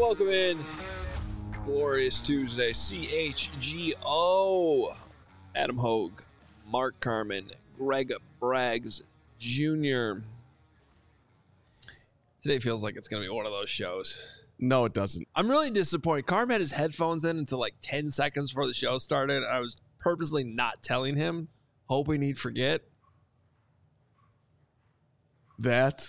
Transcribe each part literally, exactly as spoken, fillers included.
welcome in. Glorious Tuesday. C H G O. Adam Hogue, Mark Carman, Greg Braggs Junior Today feels like it's going to be one of those shows. No, it doesn't. I'm really disappointed. Carm had his headphones in until like ten seconds before the show started. I was purposely not telling him, hoping he'd forget. That?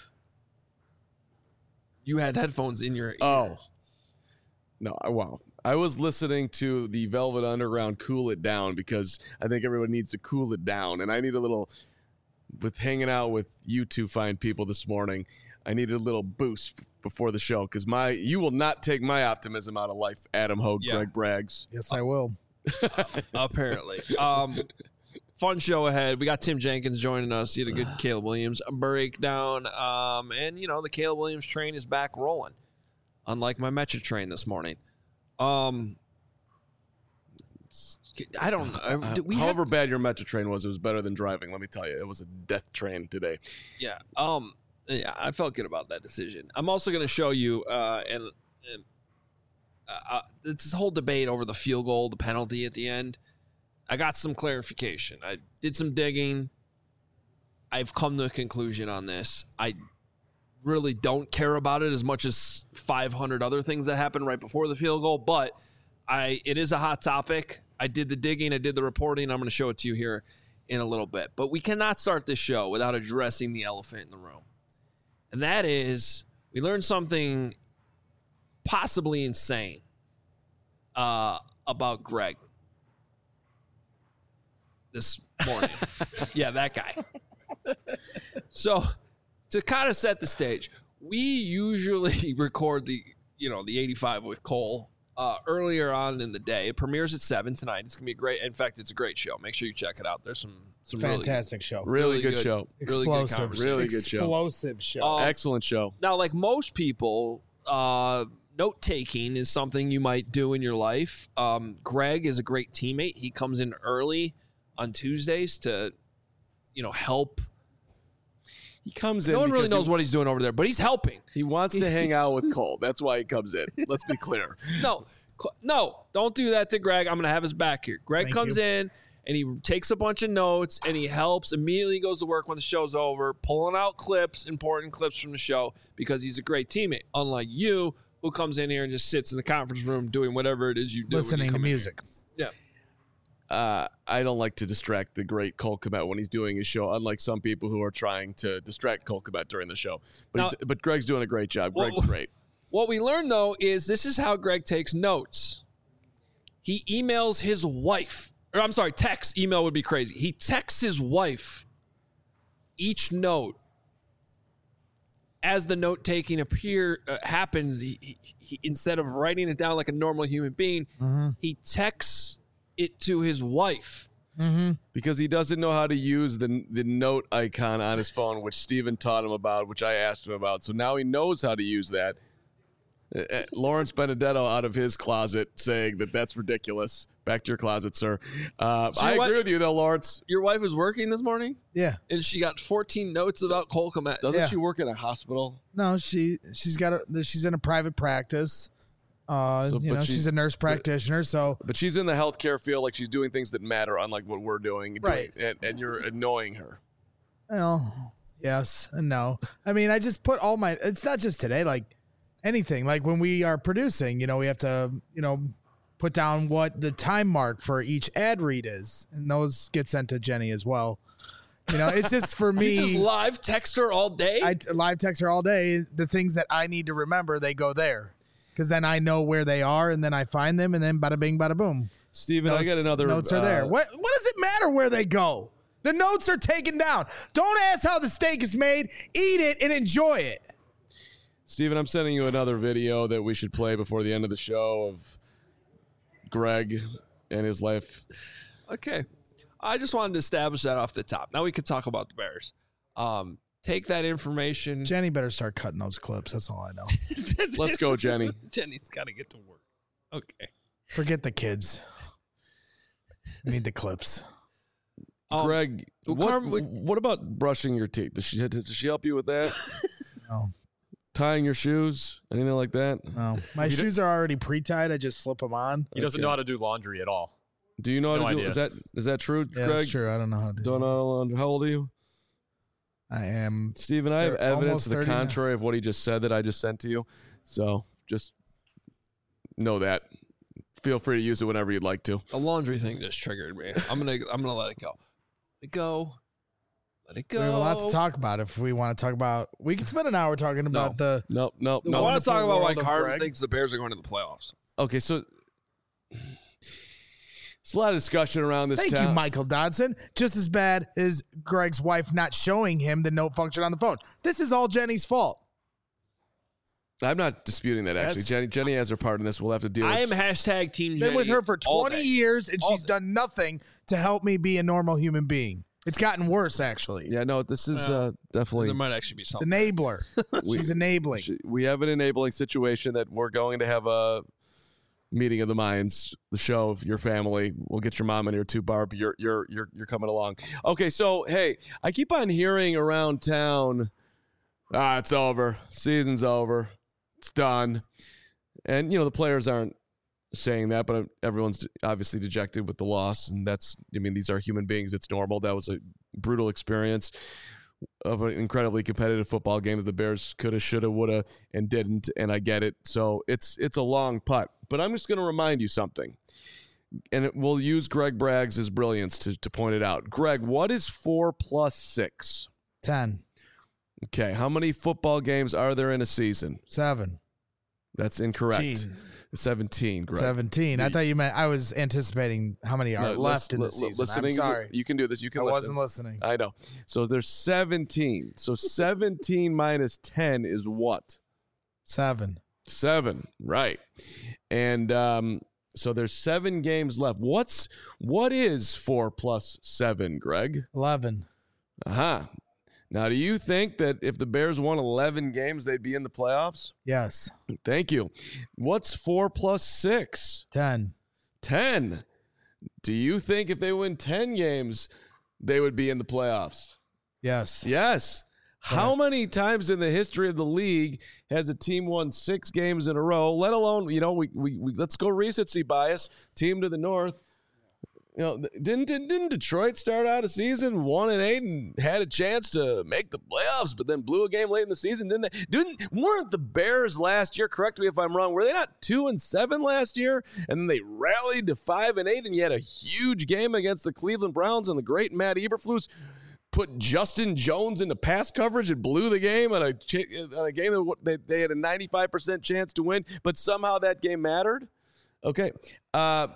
You had headphones in your ear. Oh. No, I- well, I was listening to the Velvet Underground Cool It Down because I think everyone needs to cool it down. And I need a little, with hanging out with you two fine people this morning, I needed a little boost f- before the show because my you will not take my optimism out of life, Adam Hogue, Yeah. Greg Braggs. Yes, I will. Apparently. Um, fun show ahead. We got Tim Jenkins joining us. He had a good Caleb Williams breakdown. Um, and, you know, the Caleb Williams train is back rolling, unlike my Metro train this morning. Um, I don't know. Uh, We However have, bad your Metro train was, it was better than driving. Let me tell you, it was a death train today. yeah. Um, yeah, I felt good about that decision. I'm also going to show you, uh, and, and uh, uh, it's this whole debate over the field goal, the penalty at the end. I got some clarification. I did some digging. I've come to a conclusion on this. I really don't care about it as much as five hundred other things that happened right before the field goal, but I it is a hot topic. I did the digging, I did the reporting. I'm going to show it to you here in a little bit. But we cannot start this show without addressing the elephant in the room. And that is, we learned something possibly insane uh, about Greg this morning. Yeah, that guy. So, to kind of set the stage, we usually record the, you know, the eighty-five with Cole uh, earlier on in the day. It premieres at seven tonight. It's gonna be great. In fact, it's a great show. Make sure you check it out. There's some some Fantastic show. Really, Really good, good. show. really, really good Explosive. conversation. Really good show. Explosive show. Um, Excellent show. Now, like most people, uh, note taking is something you might do in your life. Um, Greg is a great teammate. He comes in early on Tuesdays to, you know, help. He comes in. No one really because knows he, what he's doing over there, but he's helping. he wants to hang out with Cole. That's why he comes in. Let's be clear. No, Cl- no, don't do that to Greg. I'm going to have his back here. Greg Thank comes you. in and he takes a bunch of notes and he helps. Immediately goes to work when the show's over, pulling out clips, important clips from the show because he's a great teammate. Unlike you, who comes in here and just sits in the conference room doing whatever it is you do. when you Listening to come in music. here. Yeah. Uh, I don't like to distract the great Cole Kmet when he's doing his show, unlike some people who are trying to distract Cole Kmet during the show. But Now- he, but Greg's doing a great job. Well, Greg's great. What we learned, though, is this is how Greg takes notes. He emails his wife, or I'm sorry, text. Email would be crazy. He texts his wife each note. As the note taking appear uh, happens, he, he, he, instead of writing it down like a normal human being, Mm-hmm. he texts it to his wife. Mm-hmm. Because he doesn't know how to use the the note icon on his phone, which Steven taught him about, which I asked him about. So now he knows how to use that. Uh, uh, Lawrence Benedetto out of his closet saying that that's ridiculous. Back to your closet, sir. Uh, So I what- agree with you, though, Lawrence. Your wife was working this morning, Yeah. and she got fourteen notes about Cole Kmet. Doesn't Yeah. she work in a hospital? No, she she's got a she's in a private practice. Uh, So, you but know, she- she's a nurse practitioner, so But she's in the healthcare field, like she's doing things that matter, unlike what we're doing. Right. And, and you're annoying her. well, yes and no. I mean, I just put all my. It's not just today. Like anything. Like when we are producing, you know, we have to, you know, put down what the time mark for each ad read is, and those get sent to Jenny as well. You know, it's just for You just me. live text her all day. I t- live text her all day. The things that I need to remember, they go there, because then I know where they are, and then I find them, and then bada bing, bada boom. Steven, I got Notes- another. Notes are there. uh, What What does it matter where they go? The notes are taken down. Don't ask how the steak is made. Eat it and enjoy it. Steven, I'm sending you another video that we should play before the end of the show of Greg and his life. Okay. I just wanted to establish that off the top. Now we could talk about the Bears. Um, take that information. Jenny better start cutting those clips. That's all I know. Let's go, Jenny. Jenny's got to get to work. Okay. Forget the kids. We need the clips. Um, Greg, well, what, Carm, we- what about brushing your teeth? Does she, does she help you with that? No. tying your shoes, anything like that? No, my shoes are already pre-tied. I just slip them on. He doesn't Okay. know how to do laundry at all. Do you know how No to do? idea. Is that is that true, Yeah, Greg? that's true. I don't know how to do Don't it. know. How old are you, I am. Stephen? I have They're evidence almost to the thirty now. contrary of what he just said that I just sent to you. So just know that. Feel free to use it whenever you'd like to. The laundry thing just triggered me. I'm gonna I'm gonna let it go. Let it go. Let it go. We have a lot to talk about. If we want to talk about, we can spend an hour talking about the. Nope, nope, The I nope. want to talk wonderful about why world of Carter Greg. thinks the Bears are going to the playoffs. Okay, so there's a lot of discussion around this Thank town. you, Michael Dodson. Just as bad as Greg's wife not showing him the note function on the phone. This is all Jenny's fault. I'm not disputing that, actually. That's- Jenny Jenny has her part in this. We'll have to deal with I am hashtag Team Been Jenny with her for all twenty day. years, and All she's day. done nothing to help me be a normal human being. It's gotten worse, actually. Yeah, no, this is Well, uh, definitely. There might actually be It's something. enabler. We- She's enabling. She- we have an enabling situation that we're going to have a meeting of the minds, the show of your family. We'll get your mom in here too, Barb. You're you're you're you're coming along. Okay, so hey, I keep on hearing around town, ah, it's over. Season's over. It's done. And you know, the players aren't saying that, but everyone's obviously dejected with the loss, and that's I mean, these are human beings. It's normal. That was a brutal experience of an incredibly competitive football game that the Bears coulda, shoulda, woulda, and didn't, and I get it. So it's it's a long putt. But I'm just going to remind you something, and it, we'll use Greg Braggs' brilliance to, to point it out. Greg, what is four plus six? Ten. Okay, how many football games are there in a season? Seven. That's incorrect. Gene. seventeen, Greg. Seventeen. I You- thought you meant I was anticipating how many are No, left lis- in the li- season. I'm listening is a- sorry. you can do this. You can I listen. wasn't listening. I know. So there's seventeen. So seventeen minus ten is what? Seven. Seven, right? And um, so there's seven games left. What's what is four plus seven, Greg? Eleven. Uh-huh. Now, do you think that if the Bears won eleven games, they'd be in the playoffs? Yes. Thank you. What's four plus six? Ten. Ten. Do you think if they win ten games, they would be in the playoffs? Yes. Yes. How many times in the history of the league has a team won six games in a row, let alone, you know, we, we, we let's go recency bias, team to the north. You know, didn't, didn't didn't Detroit start out a season one and eight and had a chance to make the playoffs, but then blew a game late in the season, didn't they? Didn't weren't the Bears last year? Correct me if I'm wrong. Were they not two and seven last year, and then they rallied to five and eight, and you had a huge game against the Cleveland Browns, and the great Matt Eberflus put Justin Jones into pass coverage and blew the game on a ch- on a game that they, they had a ninety-five percent chance to win, but somehow that game mattered. Okay. Uh,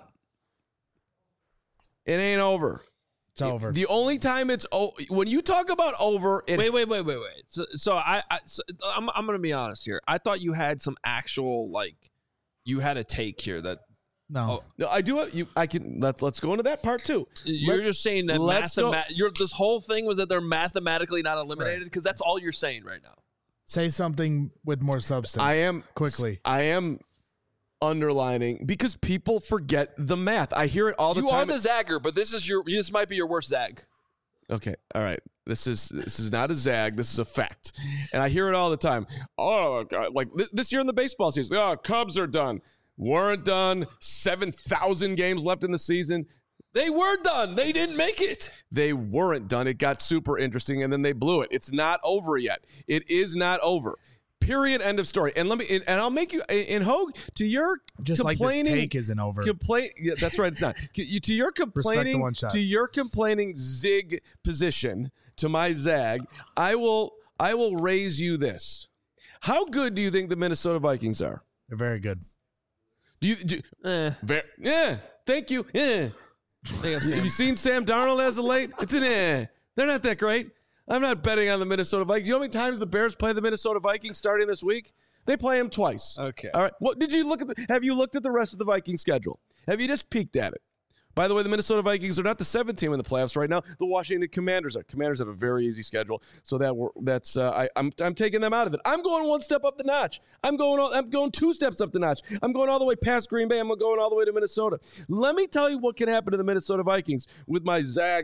it ain't over. It's over. The only time it's oh, when you talk about over, it, Wait, wait, wait, wait, wait. So, so I, I so I'm, I'm going to be honest here. I thought you had some actual like, you had a take here that no. Oh, no, I do. You, I can. Let's let's go into that part too. you're Let- just saying that let's go- mathema- you're, this whole thing was that they're mathematically not eliminated because that's all you're saying right now. Say something with more substance. I am quickly. I am underlining because people forget the math. I hear it all the You time. are the zagger, but this is your this might be your worst zag. Okay, all right. This is this is not a zag. This is a fact, and I hear it all the time. Oh, God, like th- this year in the baseball season, oh, Cubs are done. Weren't done. Seven thousand games left in the season. They were done. They didn't make it. They weren't done. It got super interesting, and then they blew it. It's not over yet. It is not over. Period. End of story. And let me. And I'll make you. And Hogue, to your Just like this complaining, take isn't over. Complain. Yeah, that's right. It's not. You- to your complaining. one shot. To your complaining zig position. To my zag. I will. I will raise you this. How good do you think the Minnesota Vikings are? They're very good. Do you? Do, Eh, ver, yeah. Thank you. Yeah. I think I've Have seen you seen Sam Darnold as of late? It's an eh. They're not that great. I'm not betting on the Minnesota Vikings. You know how many times the Bears play the Minnesota Vikings starting this week? They play them twice. Okay. All right. What did you look at? The, have you looked at the rest of the Viking schedule? Have you just peeked at it? By the way, the Minnesota Vikings are not the seventh team in the playoffs right now. The Washington Commanders are. Commanders have a very easy schedule, so that we're, that's uh, I, I'm I'm taking them out of it. I'm going one step up the notch. I'm going all, I'm going two steps up the notch. I'm going all the way past Green Bay. I'm going all the way to Minnesota. Let me tell you what can happen to the Minnesota Vikings with my zagged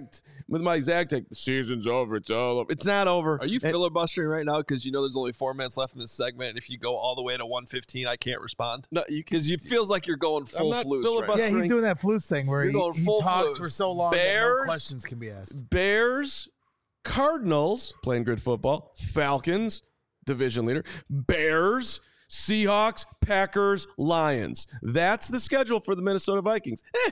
with my exact take, the season's over. It's all over. It's not over. Are you And- filibustering right now because you know there's only four minutes left in this segment, and if you go all the way to one fifteen, I can't respond? No, you can. Because it feels like you're going full not flus right filibustering. Yeah, he's doing that flus thing where You're he, going he full talks flus. for so long that Bears- no questions can be asked. Bears, Cardinals, playing good football, Falcons, division leader, Bears, Seahawks, Packers, Lions. That's the schedule for the Minnesota Vikings. Eh.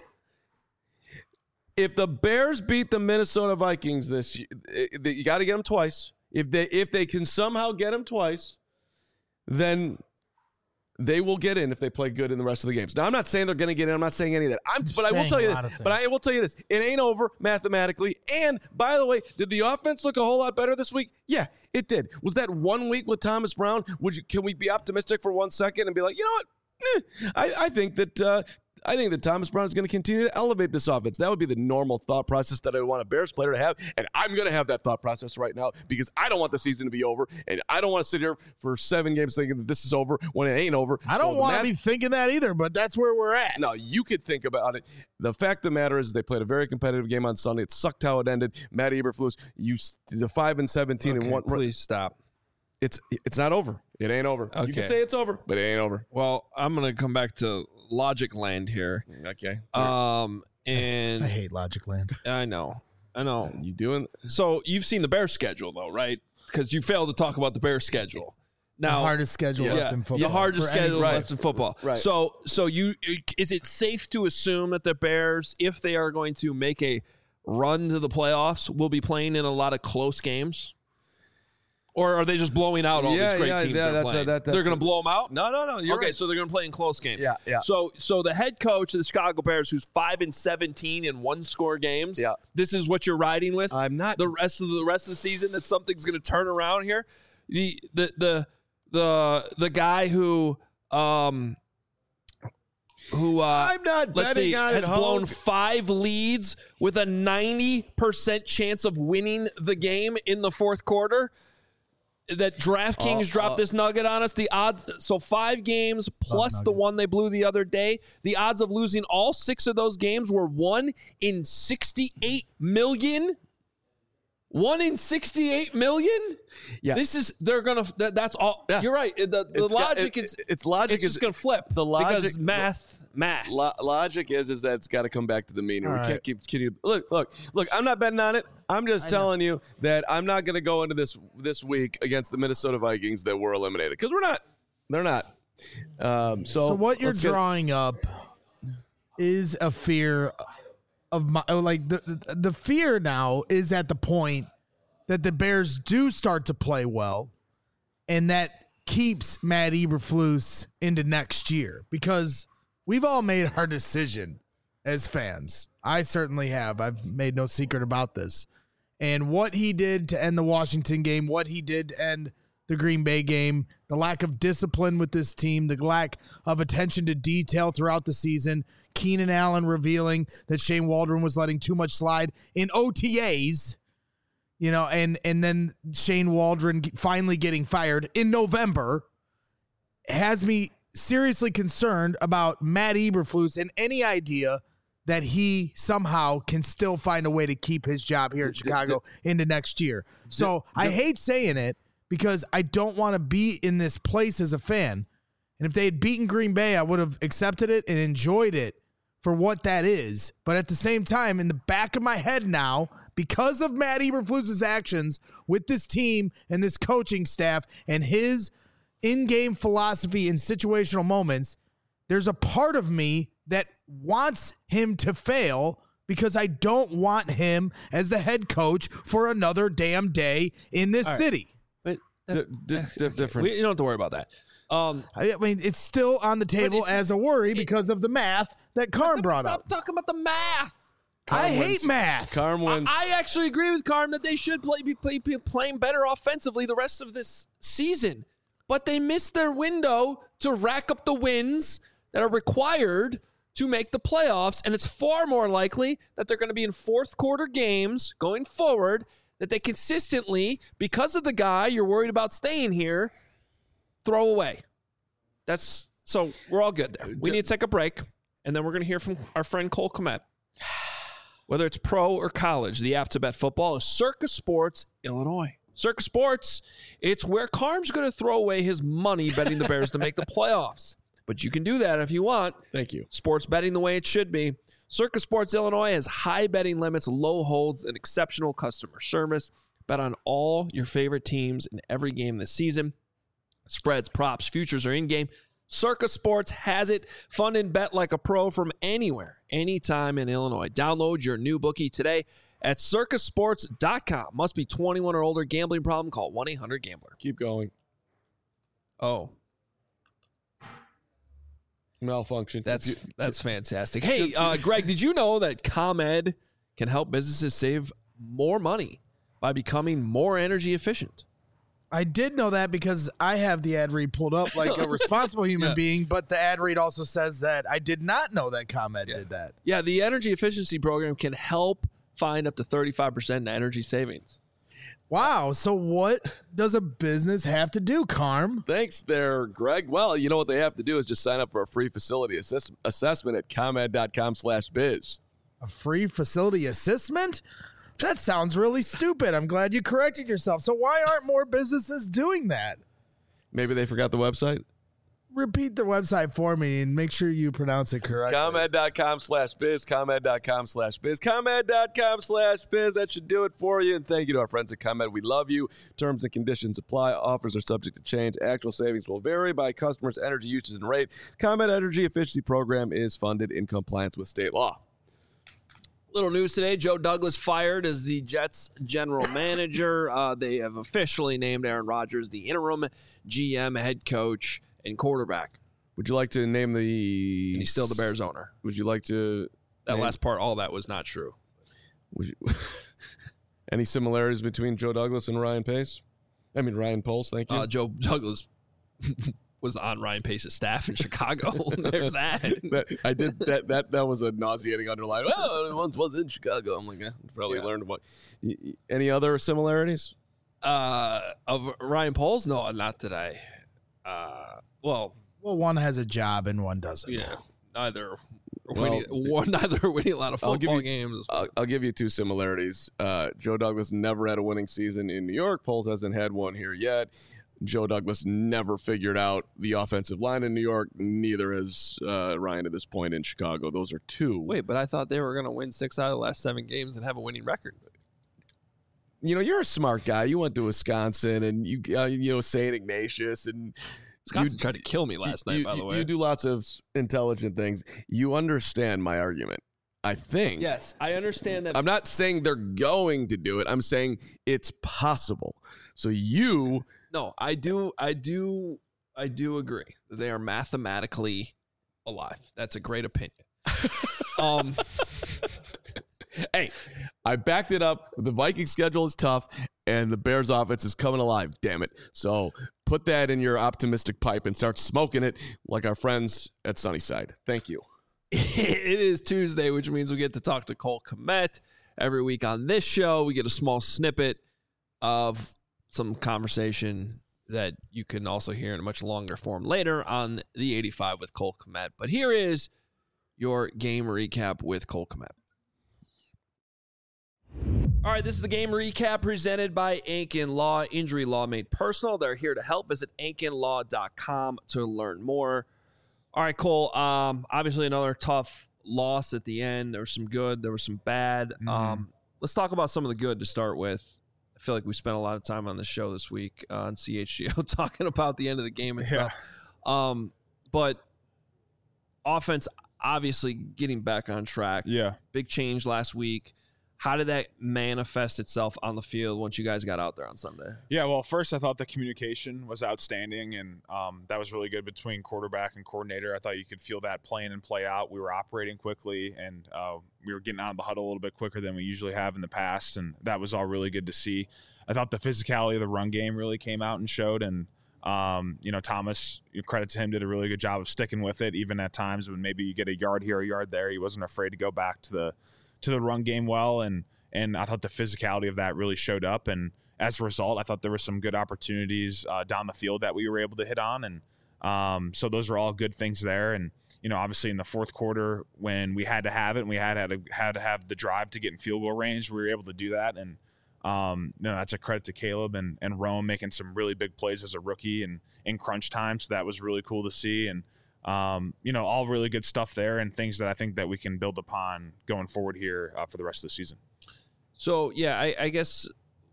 If the Bears beat the Minnesota Vikings this year, you got to get them twice. If they if they can somehow get them twice, then they will get in if they play good in the rest of the games. Now, I'm not saying they're going to get in. I'm not saying any of that. I'm, but I will saying tell you a this. lot of But I things. will tell you this. It ain't over mathematically. And by the way, did the offense look a whole lot better this week? Yeah, it did. Was that one week with Thomas Brown? Would you? Can we be optimistic for one second and be like, you know what? Eh, I, I think that uh, I think that Thomas Brown is going to continue to elevate this offense. That would be the normal thought process that I would want a Bears player to have, and I'm going to have that thought process right now because I don't want the season to be over, and I don't want to sit here for seven games thinking that this is over when it ain't over. I don't So want to Matt- be thinking that either, but that's where we're at. No, you could think about it. The fact of the matter is they played a very competitive game on Sunday. It sucked how it ended. Matt Eberflus, you s- the five and seventeen Okay, and one. please stop. It's it's not over. It ain't over. You Okay. can say it's over, but it ain't over. Well, I'm going to come back to Logic Land here. Okay. Um, and I hate Logic Land. I know. I know. you doing? So you've seen the Bears schedule, though, right? Because you failed to talk about the Bears schedule. The Now, hardest schedule yeah, left in football. the hardest for any schedule team. left in football. Right. So, so you is it safe to assume that the Bears, if they are going to make a run to the playoffs, will be playing in a lot of close games? Or are they just blowing out all Yeah, these great yeah, teams yeah, they're that's a- playing? that- they're that's going a- to blow them out? No, no, no. You're okay, right. so they're going to play in close games. Yeah, yeah. So, so the head coach of the Chicago Bears, who's five and seventeen in one score games, Yeah. this is what you're riding with. I'm not- the rest of the rest of the season. That something's going to turn around here. The the the the the guy who um who uh, I'm not let's betting see, on has it. blown Hulk. five leads with a ninety percent chance of winning the game in the fourth quarter. That DraftKings Uh, dropped uh, this nugget on us. The odds, so five games plus the nuggets. one they blew the other day. The odds of losing all six of those games were one in sixty-eight million. One in sixty-eight million. Yeah. This is they're gonna. That, that's all. Yeah. You're right. The, the It's got- logic it- is it's logic It's just is- gonna flip. the logic- because math, math. Lo- logic is is that it's got to come back to the mean. and We All can't right. keep kidding. Look, look, look. I'm not betting on it. I'm just telling you that I'm not going to go into this this week against the Minnesota Vikings that were eliminated because we're not. They're not. Um, so, So what you're let's get- drawing up is a fear of my like the the- the fear now is at the point that the Bears do start to play well, and that keeps Matt Eberflus into next year because we've all made our decision as fans. I certainly have. I've made no secret about this. And what he did to end the Washington game, what he did to end the Green Bay game, the lack of discipline with this team, the lack of attention to detail throughout the season, Keenan Allen revealing that Shane Waldron was letting too much slide in O T As, you know, and and then Shane Waldron finally getting fired in November has me seriously concerned about Matt Eberflus and any idea that he somehow can still find a way to keep his job here in D- d- Chicago into next year. So I hate saying it because I don't want to be in this place as a fan. And if they had beaten Green Bay, I would have accepted it and enjoyed it for what that is. But at the same time, in the back of my head now, because of Matt Eberflus's actions with this team and this coaching staff and his in-game philosophy in situational moments, there's a part of me that wants him to fail because I don't want him as the head coach for another damn day in this right. city. But D- d- d- different. we, you don't have to worry about that. Um, I mean, it's still on the table it's- as a worry because of the math that Carm brought stop up. talking about the math. I Carm hate wins. math. Carm wins. I actually agree with Carm that they should play be, play, be playing better offensively the rest of this season. But they missed their window to rack up the wins that are required to make the playoffs. And it's far more likely that they're going to be in fourth quarter games going forward, that they consistently, because of the guy you're worried about staying here, throw away. That's so we're all good there. We need to take a break, and then we're going to hear from our friend Cole Kmet. Whether it's pro or college, the app to bet football is Circa Sports Illinois. Circa Sports, it's where Carm's going to throw away his money betting the Bears to make the playoffs. But you can do that if you want. Thank you. Sports betting the way it should be. Circa Sports Illinois has high betting limits, low holds, and exceptional customer service. Bet on all your favorite teams in every game this season. Spreads, props, futures are in-game. Circa Sports has it. Fund and bet like a pro from anywhere, anytime in Illinois. Download your new bookie today at circa sports dot com. Must be twenty-one or older. Gambling problem? Call one eight hundred gambler. Keep going. Oh. Malfunction. That's that's fantastic. Hey, uh, Greg, did you know that ComEd can help businesses save more money by becoming more energy efficient? I did know that because I have the ad read pulled up like a responsible human Yeah. being, but the ad read also says that I did not know that ComEd Yeah. did that. Yeah, the energy efficiency program can help find up to thirty-five percent in energy savings. Wow. So what does a business have to do, Carm? Thanks there, Greg. Well, you know what they have to do is just sign up for a free facility assess- assessment at comed.com slash biz. A free facility assessment? That sounds really stupid. I'm glad you corrected yourself. So why aren't more businesses doing that? Maybe they forgot the website? Repeat the website for me and make sure you pronounce it correctly. comed.com slash biz, comed.com slash biz, comed.com slash biz. That should do it for you. And thank you to our friends at ComEd. We love you. Terms and conditions apply. Offers are subject to change. Actual savings will vary by customers' energy usage and rate. ComEd Energy Efficiency Program is funded in compliance with state law. Little news today. Joe Douglas fired as the Jets general manager. Uh, they have officially named Aaron Rodgers the interim G M, head coach, and quarterback. Would you like to name the... And he's still the Bears owner. Would you like to... That name- last part, all that was not true. Would you... Any similarities between Joe Douglas and Ryan Pace? I mean, Ryan Poles, thank you. Uh, Joe Douglas was on Ryan Pace's staff in Chicago. There's that. That- I did that. That that was a nauseating underline. Oh, it once was in Chicago. I'm like, eh, probably Yeah. learned about. Y- y- Any other similarities? Uh, of Ryan Poles? No, not today. Uh, well, Well, one has a job and one doesn't. yeah, neither. Well, winning, one, neither winning a lot of I'll football give you- games. I'll, I'll give you two similarities. Uh, Joe Douglas never had a winning season in New York. Poles hasn't had one here yet. Joe Douglas never figured out the offensive line in New York. Neither has uh, Ryan at this point in Chicago. Those are two. Wait, but I thought they were going to win six out of the last seven games and have a winning record. You know, you're a smart guy. You went to Wisconsin and you, uh, you know, Saint Ignatius and Wisconsin you- tried to kill me last night, you, by the you- way. You do lots of s- intelligent things. You understand my argument, I think. Yes, I understand that. I'm not saying they're going to do it. I'm saying it's possible. So you, No, I do, I do, I do agree that they are mathematically alive. That's a great opinion. um, hey, I backed it up. The Vikings schedule is tough, and the Bears offense is coming alive. Damn it! So put that in your optimistic pipe and start smoking it like our friends at Sunnyside. Thank you. it is Tuesday, which means we get to talk to Cole Kmet every week on this show. We get a small snippet of some conversation that you can also hear in a much longer form later on the eighty-five with Cole Kmet. But here is your game recap with Cole Kmet. All right, this is the game recap presented by Ankin Law. Injury law made personal. They're here to help. Visit ankin law dot com to learn more. All right, Cole. Um, obviously another tough loss at the end. There was some good. There was some bad. Mhm. Um, let's talk about some of the good to start with. I feel like we spent a lot of time on this show this week uh, on C H G O talking about the end of the game and Yeah. stuff. Um, but offense obviously getting back on track. Yeah. Big change last week. How did that manifest itself on the field once you guys got out there on Sunday? Yeah, well, first I thought the communication was outstanding, and um, that was really good between quarterback and coordinator. I thought you could feel that play in and play out. We were operating quickly, and uh, we were getting out of the huddle a little bit quicker than we usually have in the past, and that was all really good to see. I thought the physicality of the run game really came out and showed, and um, you know, Thomas, credit to him, did a really good job of sticking with it, even at times when maybe you get a yard here, a yard there. He wasn't afraid to go back to the to the run game well, and and I thought the physicality of that really showed up, and as a result, I thought there were some good opportunities uh, down the field that we were able to hit on, and Um, so those are all good things there. And, you know, obviously in the fourth quarter when we had to have it and we had, had, to, had to have the drive to get in field goal range, we were able to do that. And, um, you know, that's a credit to Caleb and, and Rome making some really big plays as a rookie and in crunch time. So that was really cool to see. And, um, you know, all really good stuff there and things that I think that we can build upon going forward here uh, for the rest of the season. So, yeah, I, I guess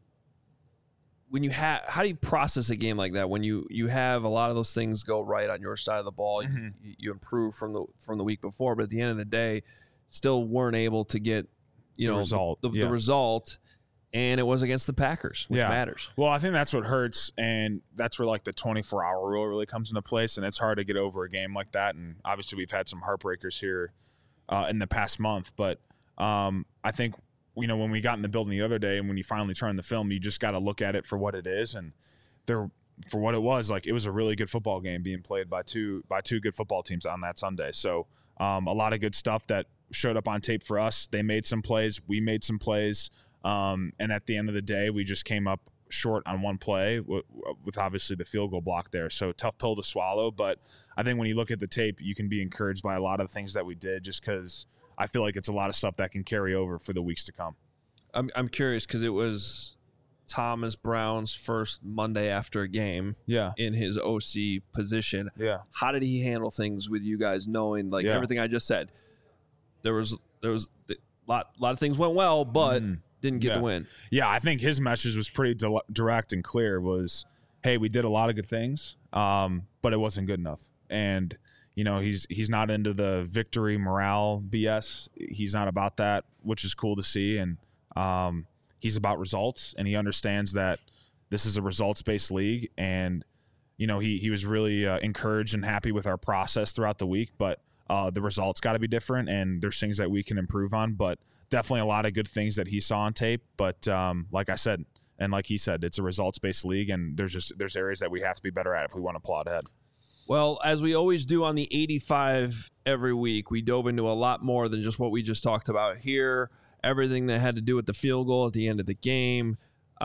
when you have, how do you process a game like that? When you, you have a lot of those things go right on your side of the ball, mm-hmm. you, you improve from the, from the week before, but at the end of the day, still weren't able to get, you the know, result. the, the, yeah. the result. And it was against the Packers, which yeah. matters. Well, I think that's what hurts, and that's where like the twenty-four hour rule really comes into place, and it's hard to get over a game like that. And obviously, we've had some heartbreakers here uh, in the past month, but um, I think you know when we got in the building the other day, and when you finally turn the film, you just got to look at it for what it is, and there for what it was. Like it was a really good football game being played by two by two good football teams on that Sunday. So um, a lot of good stuff that showed up on tape for us. They made some plays, we made some plays. Um, and at the end of the day, we just came up short on one play w- with obviously the field goal block there. So tough pill to swallow. But I think when you look at the tape, you can be encouraged by a lot of the things that we did just because I feel like it's a lot of stuff that can carry over for the weeks to come. I'm I'm curious because it was Thomas Brown's first Monday after a game yeah. in his O C position. Yeah. How did he handle things with you guys knowing like yeah. everything I just said? There was there was a lot, lot of things went well, but mm. didn't get yeah. the win. Yeah, I think his message was pretty di- direct and clear was, hey, we did a lot of good things, um, but it wasn't good enough. And, you know, he's he's not into the victory morale B S. He's not about that, which is cool to see. And um, he's about results, and he understands that this is a results-based league. And, you know, he, he was really uh, encouraged and happy with our process throughout the week, but uh, the results got to be different, and there's things that we can improve on. But definitely a lot of good things that he saw on tape. But um, like I said, and like he said, it's a results-based league, and there's just there's areas that we have to be better at if we want to plot ahead. Well, as we always do on the eighty-five every week, we dove into a lot more than just what we just talked about here. Everything that had to do with the field goal at the end of the game.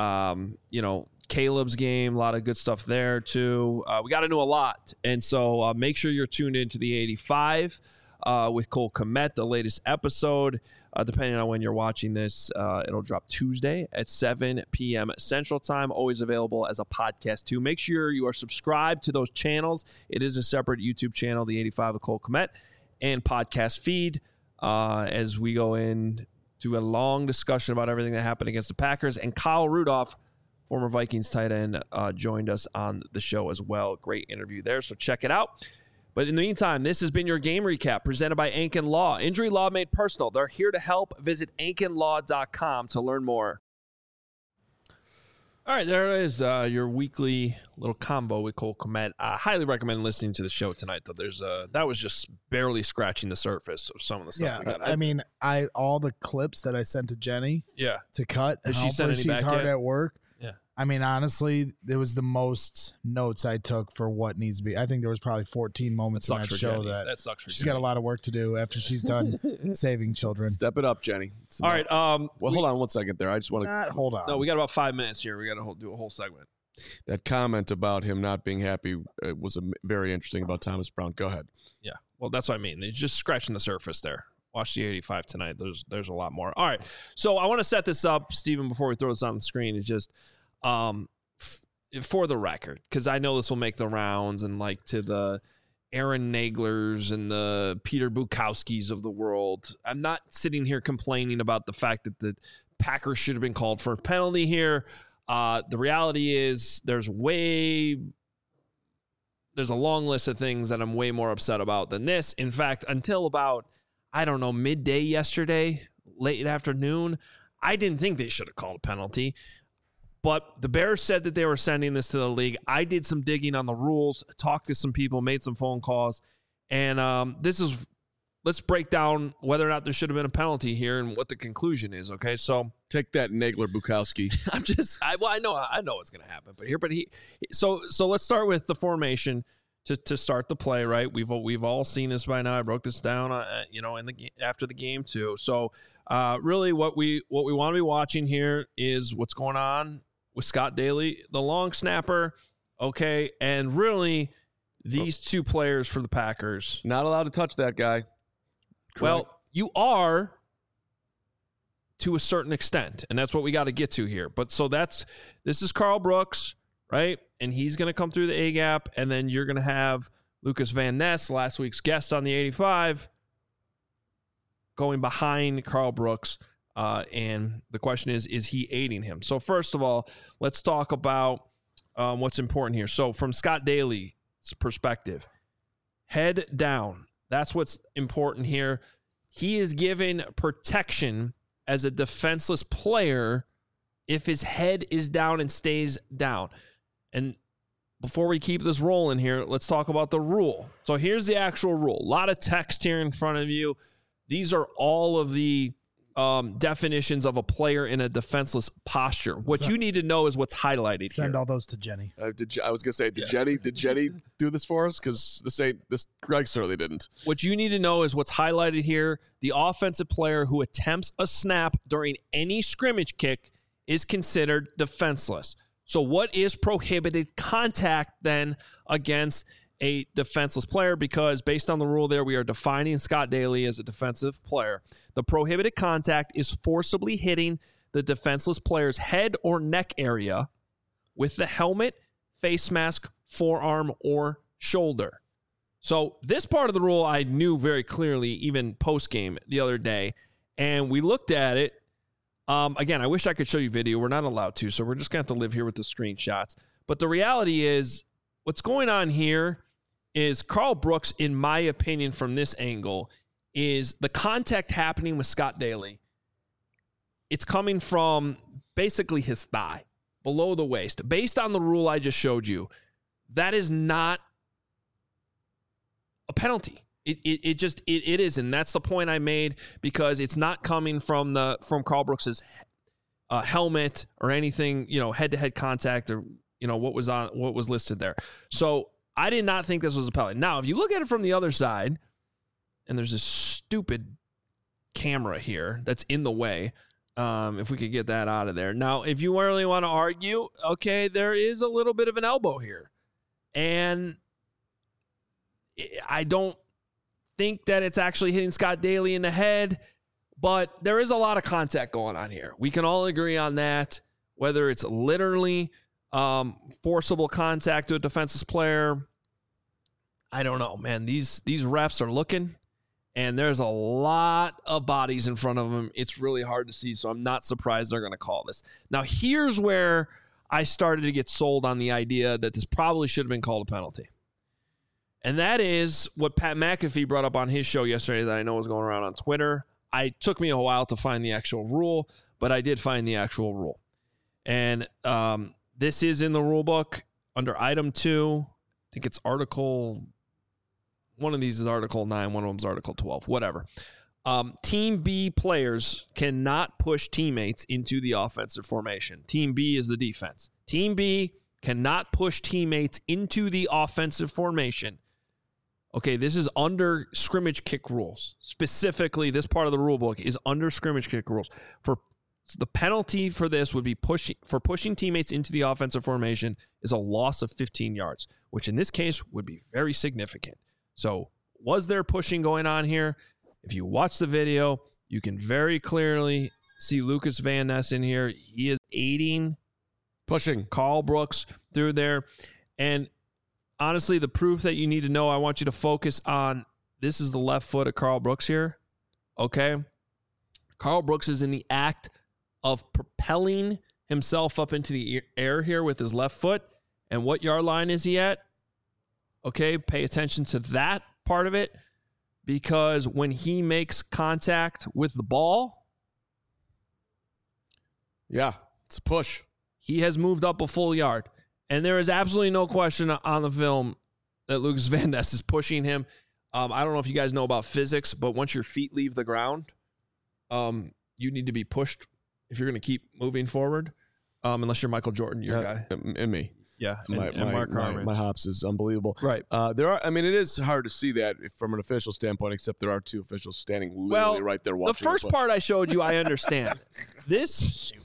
Um, you know, Caleb's game, a lot of good stuff there too. Uh, we got to know a lot. And so uh, make sure you're tuned into the eighty-five uh, with Cole Kmet, the latest episode. Uh, depending on when you're watching this, uh, it'll drop Tuesday at seven p.m. Central Time, always available as a podcast too. Make sure you are subscribed to those channels. It is a separate YouTube channel, the eighty-five with Cole Kmet, and podcast feed uh, as we go in to a long discussion about everything that happened against the Packers. And Kyle Rudolph, former Vikings tight end, uh, joined us on the show as well. Great interview there, so check it out. But in the meantime, this has been your game recap presented by Ankin Law. Injury law made personal. They're here to help. Visit ankin law dot com to learn more. All right, there it is, uh, your weekly little combo with Cole Kmet. I highly recommend listening to the show tonight, though. There's uh, that was just barely scratching the surface of some of the stuff. Yeah, we got. I mean, I all the clips that I sent to Jenny yeah. to cut. Has and she sent hopefully any she's back hard yet? at work. Yeah. I mean, honestly, it was the most notes I took for what needs to be. I think there was probably fourteen moments That in sucks that for show Jenny. that, That sucks for she's Jenny. got a lot of work to do after she's done saving children. Step it up, Jenny. It's All not- right. Um, Well, we- hold on one second there. I just want to Not, hold on. No, we got about five minutes here. We got to do a whole segment. that comment about him not being happy uh, was a, very interesting about Thomas Brown. Go ahead. Yeah. Well, that's what I mean. They're just scratching the surface there. Watch the eighty-five tonight. There's there's a lot more. All right. So I want to set this up, Stephen, before we throw this on the screen. It's just um, f- for the record, because I know this will make the rounds and like to the Aaron Naglers and the Peter Bukowskis of the world. I'm not sitting here complaining about the fact that the Packers should have been called for a penalty here. Uh, the reality is there's way, there's a long list of things that I'm way more upset about than this. In fact, until about, I don't know, midday yesterday, late afternoon, I didn't think they should have called a penalty. But the Bears said that they were sending this to the league. I did some digging on the rules, talked to some people, made some phone calls. And um, this is, let's break down whether or not there should have been a penalty here and what the conclusion is. Okay, so Take that, Nagler Bukowski. I'm just, I, well, I know, I know what's going to happen, but here, but he, so, so let's start with the formation to, to start the play, right? We've, we've all seen this by now. I broke this down, uh, you know, in the, after the game too. So, uh, really what we, what we want to be watching here is what's going on with Scott Daly, the long snapper. Okay. And really these two players for the Packers. Not allowed to touch that guy. Correct. Well, you are to a certain extent, and that's what we got to get to here. But so that's this is Karl Brooks, right? And he's going to come through the A gap, and then you're going to have Lucas Van Ness, last week's guest on the eighty-five, going behind Karl Brooks. Uh, and the question is, is he aiding him? So first of all, let's talk about um, what's important here. So from Scott Daly's perspective, head down. That's what's important here. He is given protection as a defenseless player if his head is down and stays down. And before we keep this rolling here, let's talk about the rule. So here's the actual rule. A lot of text here in front of you. These are all of the um, definitions of a player in a defenseless posture. What So- you need to know is what's highlighted Send here. all those to Jenny. Uh, did Je- I was gonna say, did Jenny did Jenny do this for us? Because this ain't this. Greg certainly didn't. What you need to know is what's highlighted here. The offensive player who attempts a snap during any scrimmage kick is considered defenseless. So what is prohibited contact then against a defenseless player? Because based on the rule there, we are defining Scott Daly as a defensive player. The prohibited contact is forcibly hitting the defenseless player's head or neck area with the helmet, face mask, forearm, or shoulder. So this part of the rule I knew very clearly even post-game the other day, and we looked at it. Um, again, I wish I could show you video. We're not allowed to, so we're just going to have to live here with the screenshots. But the reality is what's going on here is Karl Brooks, in my opinion, from this angle, is the contact happening with Scott Daly. It's coming from basically his thigh, below the waist. Based on the rule I just showed you, that is not a penalty. It it, it just it, it is, and that's the point I made, because it's not coming from the from Karl Brooks's uh, helmet or anything, you know, head to head contact or you know what was on what was listed there. So I did not think this was a penalty. Now, if you look at it from the other side, and there's this stupid camera here that's in the way. Um, if we could get that out of there. Now, if you really want to argue, okay, there is a little bit of an elbow here. And I don't think that it's actually hitting Scott Daly in the head, but there is a lot of contact going on here. We can all agree on that, whether it's literally um, forcible contact to a defenseless player. I don't know, man. These these refs are looking. And there's a lot of bodies in front of them. It's really hard to see, so I'm not surprised they're going to call this. Now, here's where I started to get sold on the idea that this probably should have been called a penalty. And that is what Pat McAfee brought up on his show yesterday that I know was going around on Twitter. It took me a while to find the actual rule, but I did find the actual rule. And um, this is in the rule book under item two. I think it's article... One of these is Article nine, one of them is Article twelve, whatever. Um, Team B players cannot push teammates into the offensive formation. Team B is the defense. Team B cannot push teammates into the offensive formation. Okay, this is under scrimmage kick rules. Specifically, this part of the rule book is under scrimmage kick rules. For the penalty for this would be pushing for pushing teammates into the offensive formation is a loss of fifteen yards, which in this case would be very significant. So was there pushing going on here? If you watch the video, you can very clearly see Lucas Van Ness in here. He is aiding Pushing. Karl Brooks through there. And honestly, the proof that you need to know, I want you to focus on, this is the left foot of Karl Brooks here. Okay? Karl Brooks is in the act of propelling himself up into the air here with his left foot. And what yard line is he at? Okay, pay attention to that part of it, because when he makes contact with the ball, Yeah, it's a push. he has moved up a full yard. And there is absolutely no question on the film that Lucas Van Ness is pushing him. Um, I don't know if you guys know about physics, but once your feet leave the ground, um, you need to be pushed if you're going to keep moving forward, um, unless you're Michael Jordan, your Yeah, guy. and, and me. Yeah, and, My, and my, Mark my, Harmon. my hops is unbelievable. Right. Uh, there are. I mean, it is hard to see that from an official standpoint, except there are two officials standing literally Well, right there The watching. first push. part I showed you, I understand. This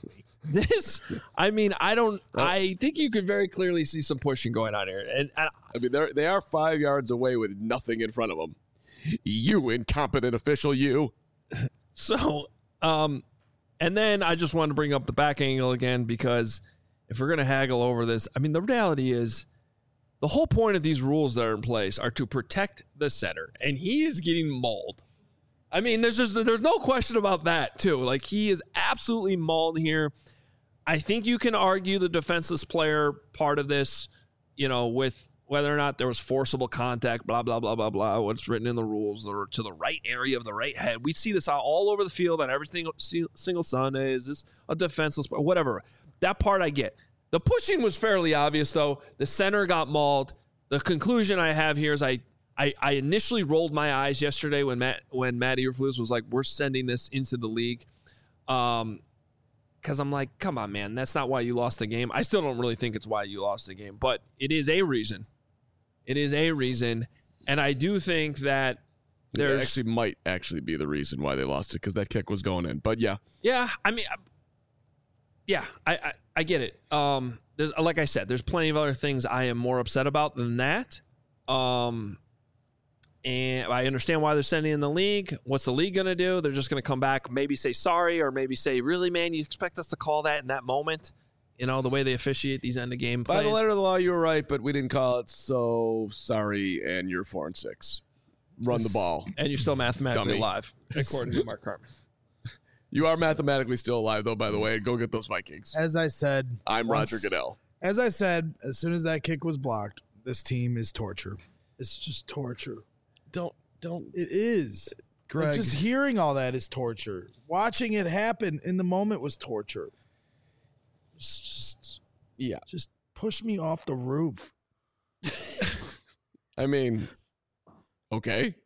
This, I mean, I don't. I think you could very clearly see some pushing going on here, and, and I mean, they're they are five yards away with nothing in front of them. You incompetent official, you. So, um, and then I just wanted to bring up the back angle again because if we're gonna haggle over this, I mean, the reality is the whole point of these rules that are in place are to protect the center, and he is getting mauled. I mean, there's just there's no question about that too. Like he is absolutely mauled here. I think you can argue the defenseless player part of this, you know, with whether or not there was forcible contact, blah, blah, blah, blah, blah, what's written in the rules or to the right area of the right head. We see this all over the field on every single, single Sunday. Is this a defenseless player? Whatever. That part I get. The pushing was fairly obvious, though. The center got mauled. The conclusion I have here is I I, I initially rolled my eyes yesterday when Matt when Matt Eberflus was like, we're sending this into the league. Um Because I'm like, come on, man, that's not why you lost the game. I still don't really think it's why you lost the game, but it is a reason. It is a reason. And I do think that there's... It actually might actually be the reason why they lost it, because that kick was going in. But yeah. Yeah, I mean, yeah, I, I, I get it. Um, there's like I said, there's plenty of other things I am more upset about than that. Um, and I understand why they're sending in the league. What's the league going to do? They're just going to come back, maybe say sorry, or maybe say, really, man, you expect us to call that in that moment? You know, the way they officiate these end of game plays. By the letter of the law, you were right, but we didn't call it, so sorry, and you're four and six. Run the ball. And you're still mathematically Dummy. alive, according to Mark Carmen. You are mathematically still alive, though, by the way. Go get those Vikings. As I said, I'm once- Roger Goodell. As I said, as soon as that kick was blocked, this team is torture. It's just torture. Don't, don't. It is. Greg. Like, just hearing all that is torture. Watching it happen in the moment was torture. Just, Yeah. just push me off the roof. I mean, okay.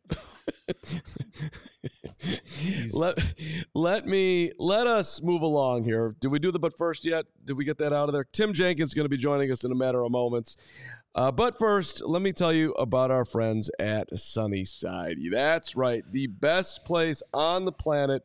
let let me let us move along here. Did we do the but first yet? Did we get that out of there? Tim Jenkins is going to be joining us in a matter of moments. Uh, but first, let me tell you about our friends at Sunnyside. That's right, the best place on the planet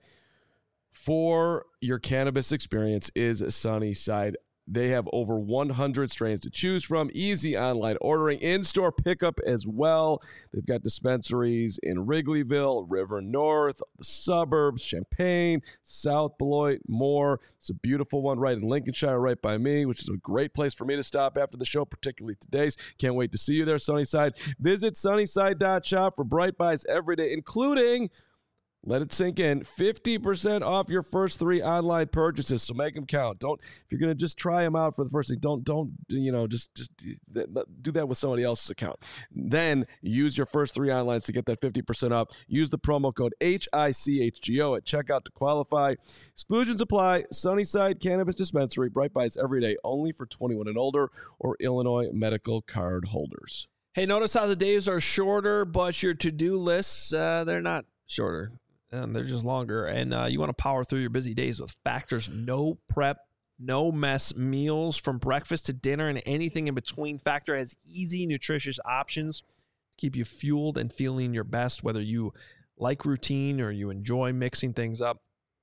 for your cannabis experience is Sunnyside. They have over one hundred strains to choose from, easy online ordering, in-store pickup as well. They've got dispensaries in Wrigleyville, River North, the suburbs, Champaign, South Beloit, more. It's a beautiful one right in Lincolnshire, right by me, which is a great place for me to stop after the show, particularly today's. Can't wait to see you there, Sunnyside. Visit sunnyside dot shop for bright buys every day, including... Let it sink in. fifty percent off your first three online purchases. So make them count. Don't, if you're going to just try them out for the first thing, don't, don't, you know, just, just do that with somebody else's account. Then use your first three onlines to get that fifty percent off. Use the promo code H I C H G O at checkout to qualify. Exclusions apply. Sunnyside Cannabis Dispensary. Bright buys every day, only for twenty-one and older or Illinois medical card holders. Hey, notice how the days are shorter, but your to-do lists, uh, they're not shorter. Um, they're just longer, and uh, you want to power through your busy days with Factor's no prep, no mess meals from breakfast to dinner and anything in between. Factor has easy, nutritious options to keep you fueled and feeling your best, whether you like routine or you enjoy mixing things up.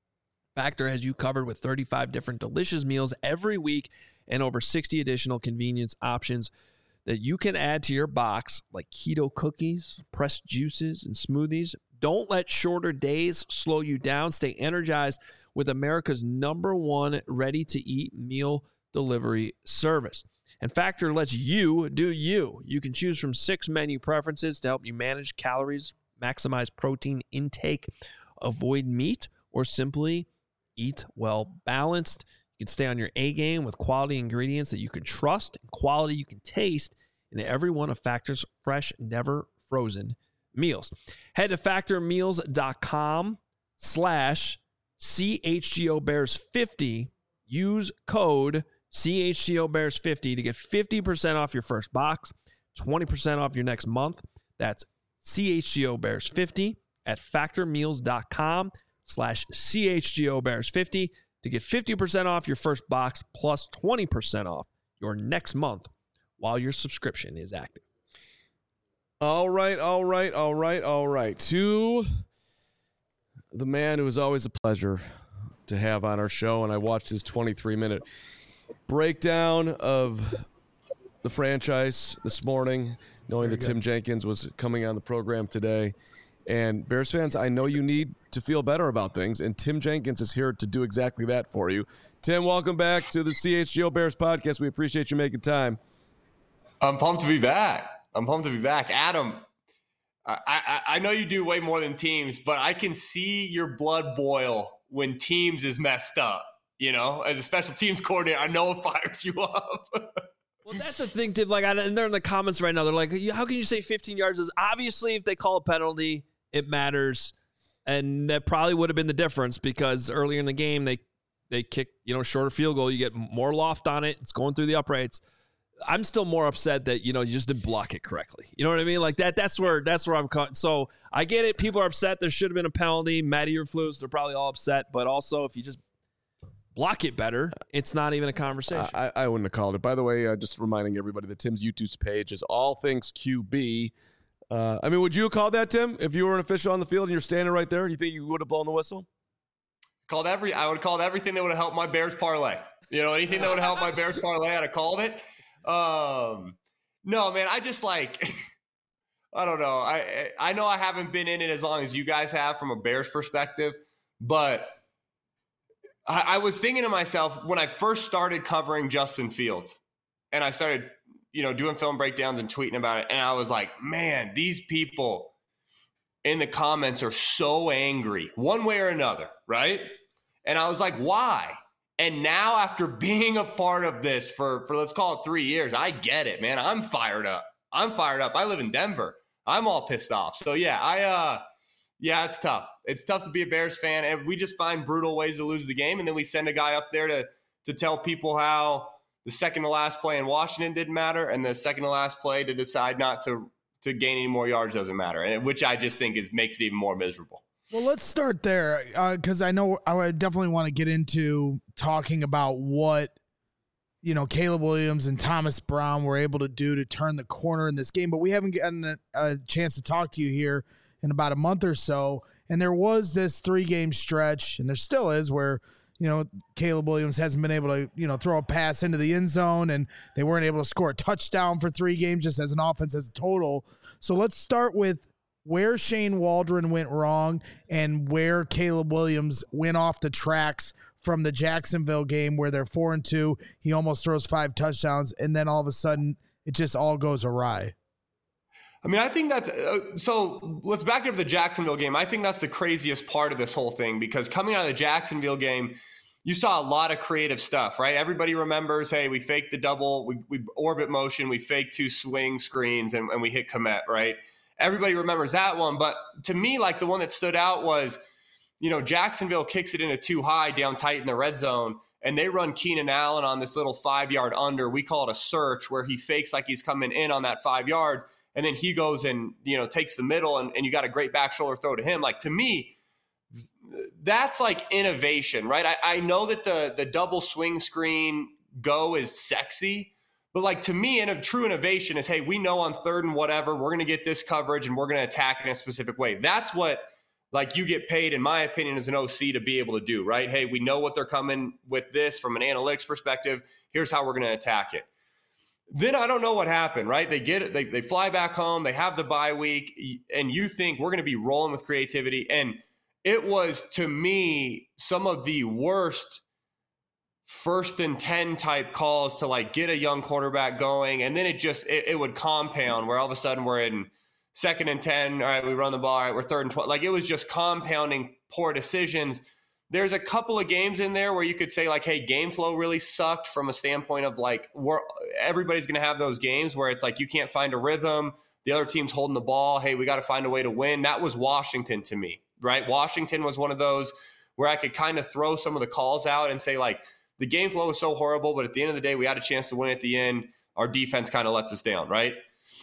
Factor has you covered with thirty-five different delicious meals every week and over sixty additional convenience options that you can add to your box, like keto cookies, pressed juices, and smoothies. Don't let shorter days slow you down. Stay energized with America's number one ready-to-eat meal delivery service. And Factor lets you do you. You can choose from six menu preferences to help you manage calories, maximize protein intake, avoid meat, or simply eat well balanced. You can stay on your A game with quality ingredients that you can trust and quality you can taste in every one of Factor's fresh, never frozen meals. Head to factormeals.com slash CHGOBears50. Use code C H G O Bears fifty to get fifty percent off your first box, twenty percent off your next month. That's C H G O Bears fifty at factormeals.com slash C H G O Bears fifty to get fifty percent off your first box plus twenty percent off your next month while your subscription is active. All right, all right, all right, all right. To the man who is always a pleasure to have on our show, and I watched his twenty-three minute breakdown of the franchise this morning, knowing that Tim Jenkins was coming on the program today. And Bears fans, I know you need to feel better about things, and Tim Jenkins is here to do exactly that for you. Tim, welcome back to the C H G O Bears podcast. We appreciate you making time. I'm pumped to be back. I'm pumped to be back. Adam, I, I, I know you do way more than teams, but I can see your blood boil when teams is messed up. You know, as a special teams coordinator, I know it fires you up. Well, that's the thing, Tim. Like, and they're in the comments right now. They're like, how can you say fifteen yards is obviously if they call a penalty, it matters. And that probably would have been the difference because earlier in the game, they They kick, you know, shorter field goal. You get more loft on it. It's going through the uprights. I'm still more upset that, you know, you just didn't block it correctly. You know what I mean? Like that. That's where that's where I'm caught. So I get it. People are upset. There should have been a penalty. Matty Eberflus, they're probably all upset. But also, if you just block it better, it's not even a conversation. I, I wouldn't have called it. By the way, uh, just reminding everybody that Tim's YouTube page is All Things Q B. Uh, I mean, would you have called that, Tim, if you were an official on the field and you're standing right there? Do you think you would have blown the whistle? Called every, I would have called everything that would have helped my Bears parlay. You know, anything that would have helped my Bears parlay, I'd have called it. Um, no, man, I just like, I don't know. I I know I haven't been in it as long as you guys have from a Bears perspective, but I, I was thinking to myself when I first started covering Justin Fields and I started, you know, doing film breakdowns and tweeting about it. And I was like, man, these people in the comments are so angry one way or another, right? And I was like, why? And now after being a part of this for, for let's call it three years, I get it, man. I'm fired up. I'm fired up. I live in Denver. I'm all pissed off. So yeah, I, uh, yeah, it's tough. It's tough to be a Bears fan. And we just find brutal ways to lose the game. And then we send a guy up there to, to tell people how the second to last play in Washington didn't matter. And the second to last play to decide not to, to gain any more yards doesn't matter. And which I just think is makes it even more miserable. Well, let's start there because uh, I know I definitely want to get into talking about what, you know, Caleb Williams and Thomas Brown were able to do to turn the corner in this game. But we haven't gotten a, a chance to talk to you here in about a month or so. And there was this three-game stretch, and there still is, where, you know, Caleb Williams hasn't been able to, you know, throw a pass into the end zone, and they weren't able to score a touchdown for three games just as an offense as a total. So let's start with where Shane Waldron went wrong and where Caleb Williams went off the tracks from the Jacksonville game where they're four and two. He almost throws five touchdowns, and then all of a sudden it just all goes awry. I mean, I think that's uh, – so let's back up the Jacksonville game. I think that's the craziest part of this whole thing because coming out of the Jacksonville game, you saw a lot of creative stuff, right? Everybody remembers, hey, we faked the double, we, we orbit motion, we faked two swing screens, and, and we hit Kmet, right? Everybody remembers that one. But to me, like the one that stood out was, you know, Jacksonville kicks it into too high down tight in the red zone, and they run Keenan Allen on this little five-yard under. We call it a search where he fakes like he's coming in on that five yards, and then he goes and, you know, takes the middle, and, and you got a great back shoulder throw to him. Like, to me, that's like innovation, right? I, I know that the the double swing screen go is sexy, but like to me, in a true innovation is, hey, we know on third and whatever, we're going to get this coverage and we're going to attack it in a specific way. That's what like you get paid, in my opinion, as an O C to be able to do, right? Hey, we know what they're coming with this from an analytics perspective. Here's how we're going to attack it. Then I don't know what happened, right? They get it. They, they fly back home. They have the bye week, and you think we're going to be rolling with creativity. And it was, to me, some of the worst first and ten type calls to like get a young quarterback going. And then it just, it, it would compound where all of a sudden we're in second and ten. All right, we run the ball. All right, we're third and twelve. Like it was just compounding poor decisions. There's a couple of games in there where you could say like, hey, game flow really sucked from a standpoint of like, we're, everybody's going to have those games where it's like, you can't find a rhythm. The other team's holding the ball. Hey, we got to find a way to win. That was Washington to me, right? Washington was one of those where I could kind of throw some of the calls out and say like, the game flow was so horrible, but at the end of the day, we had a chance to win at the end. Our defense kind of lets us down, right?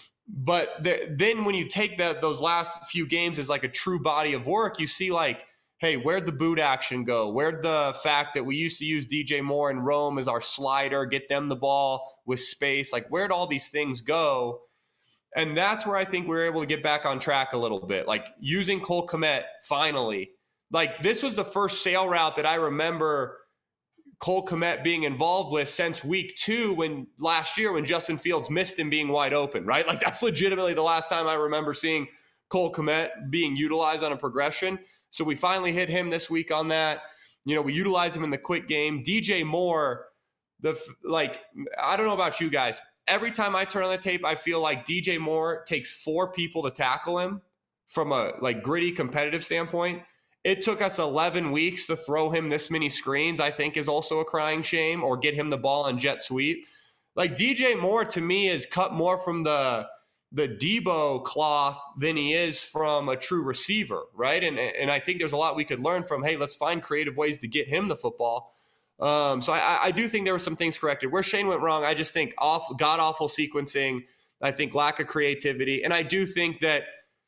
But the, then when you take that those last few games as like a true body of work, you see like, hey, where'd the boot action go? Where'd the fact that we used to use D J Moore and Rome as our slider, get them the ball with space? Like, where'd all these things go? And that's where I think we were able to get back on track a little bit. Like, using Cole Kmet finally Like, this was the first sail route that I remember Cole Kmet being involved with since week two when last year when Justin Fields missed him being wide open, right? Like, that's legitimately the last time I remember seeing Cole Kmet being utilized on a progression. So we finally hit him this week on that. You know, we utilize him in the quick game. D J Moore, the like, I don't know about you guys. Every time I turn on the tape, I feel like D J Moore takes four people to tackle him from a like gritty competitive standpoint. It took us eleven weeks to throw him this many screens, I think is also a crying shame, or get him the ball on jet sweep. Like, D J Moore to me is cut more from the the Debo cloth than he is from a true receiver, right? And and I think there's a lot we could learn from, hey, let's find creative ways to get him the football. Um, so I, I do think there were some things corrected. Where Shane went wrong, I just think off, god-awful sequencing, I think lack of creativity, and I do think that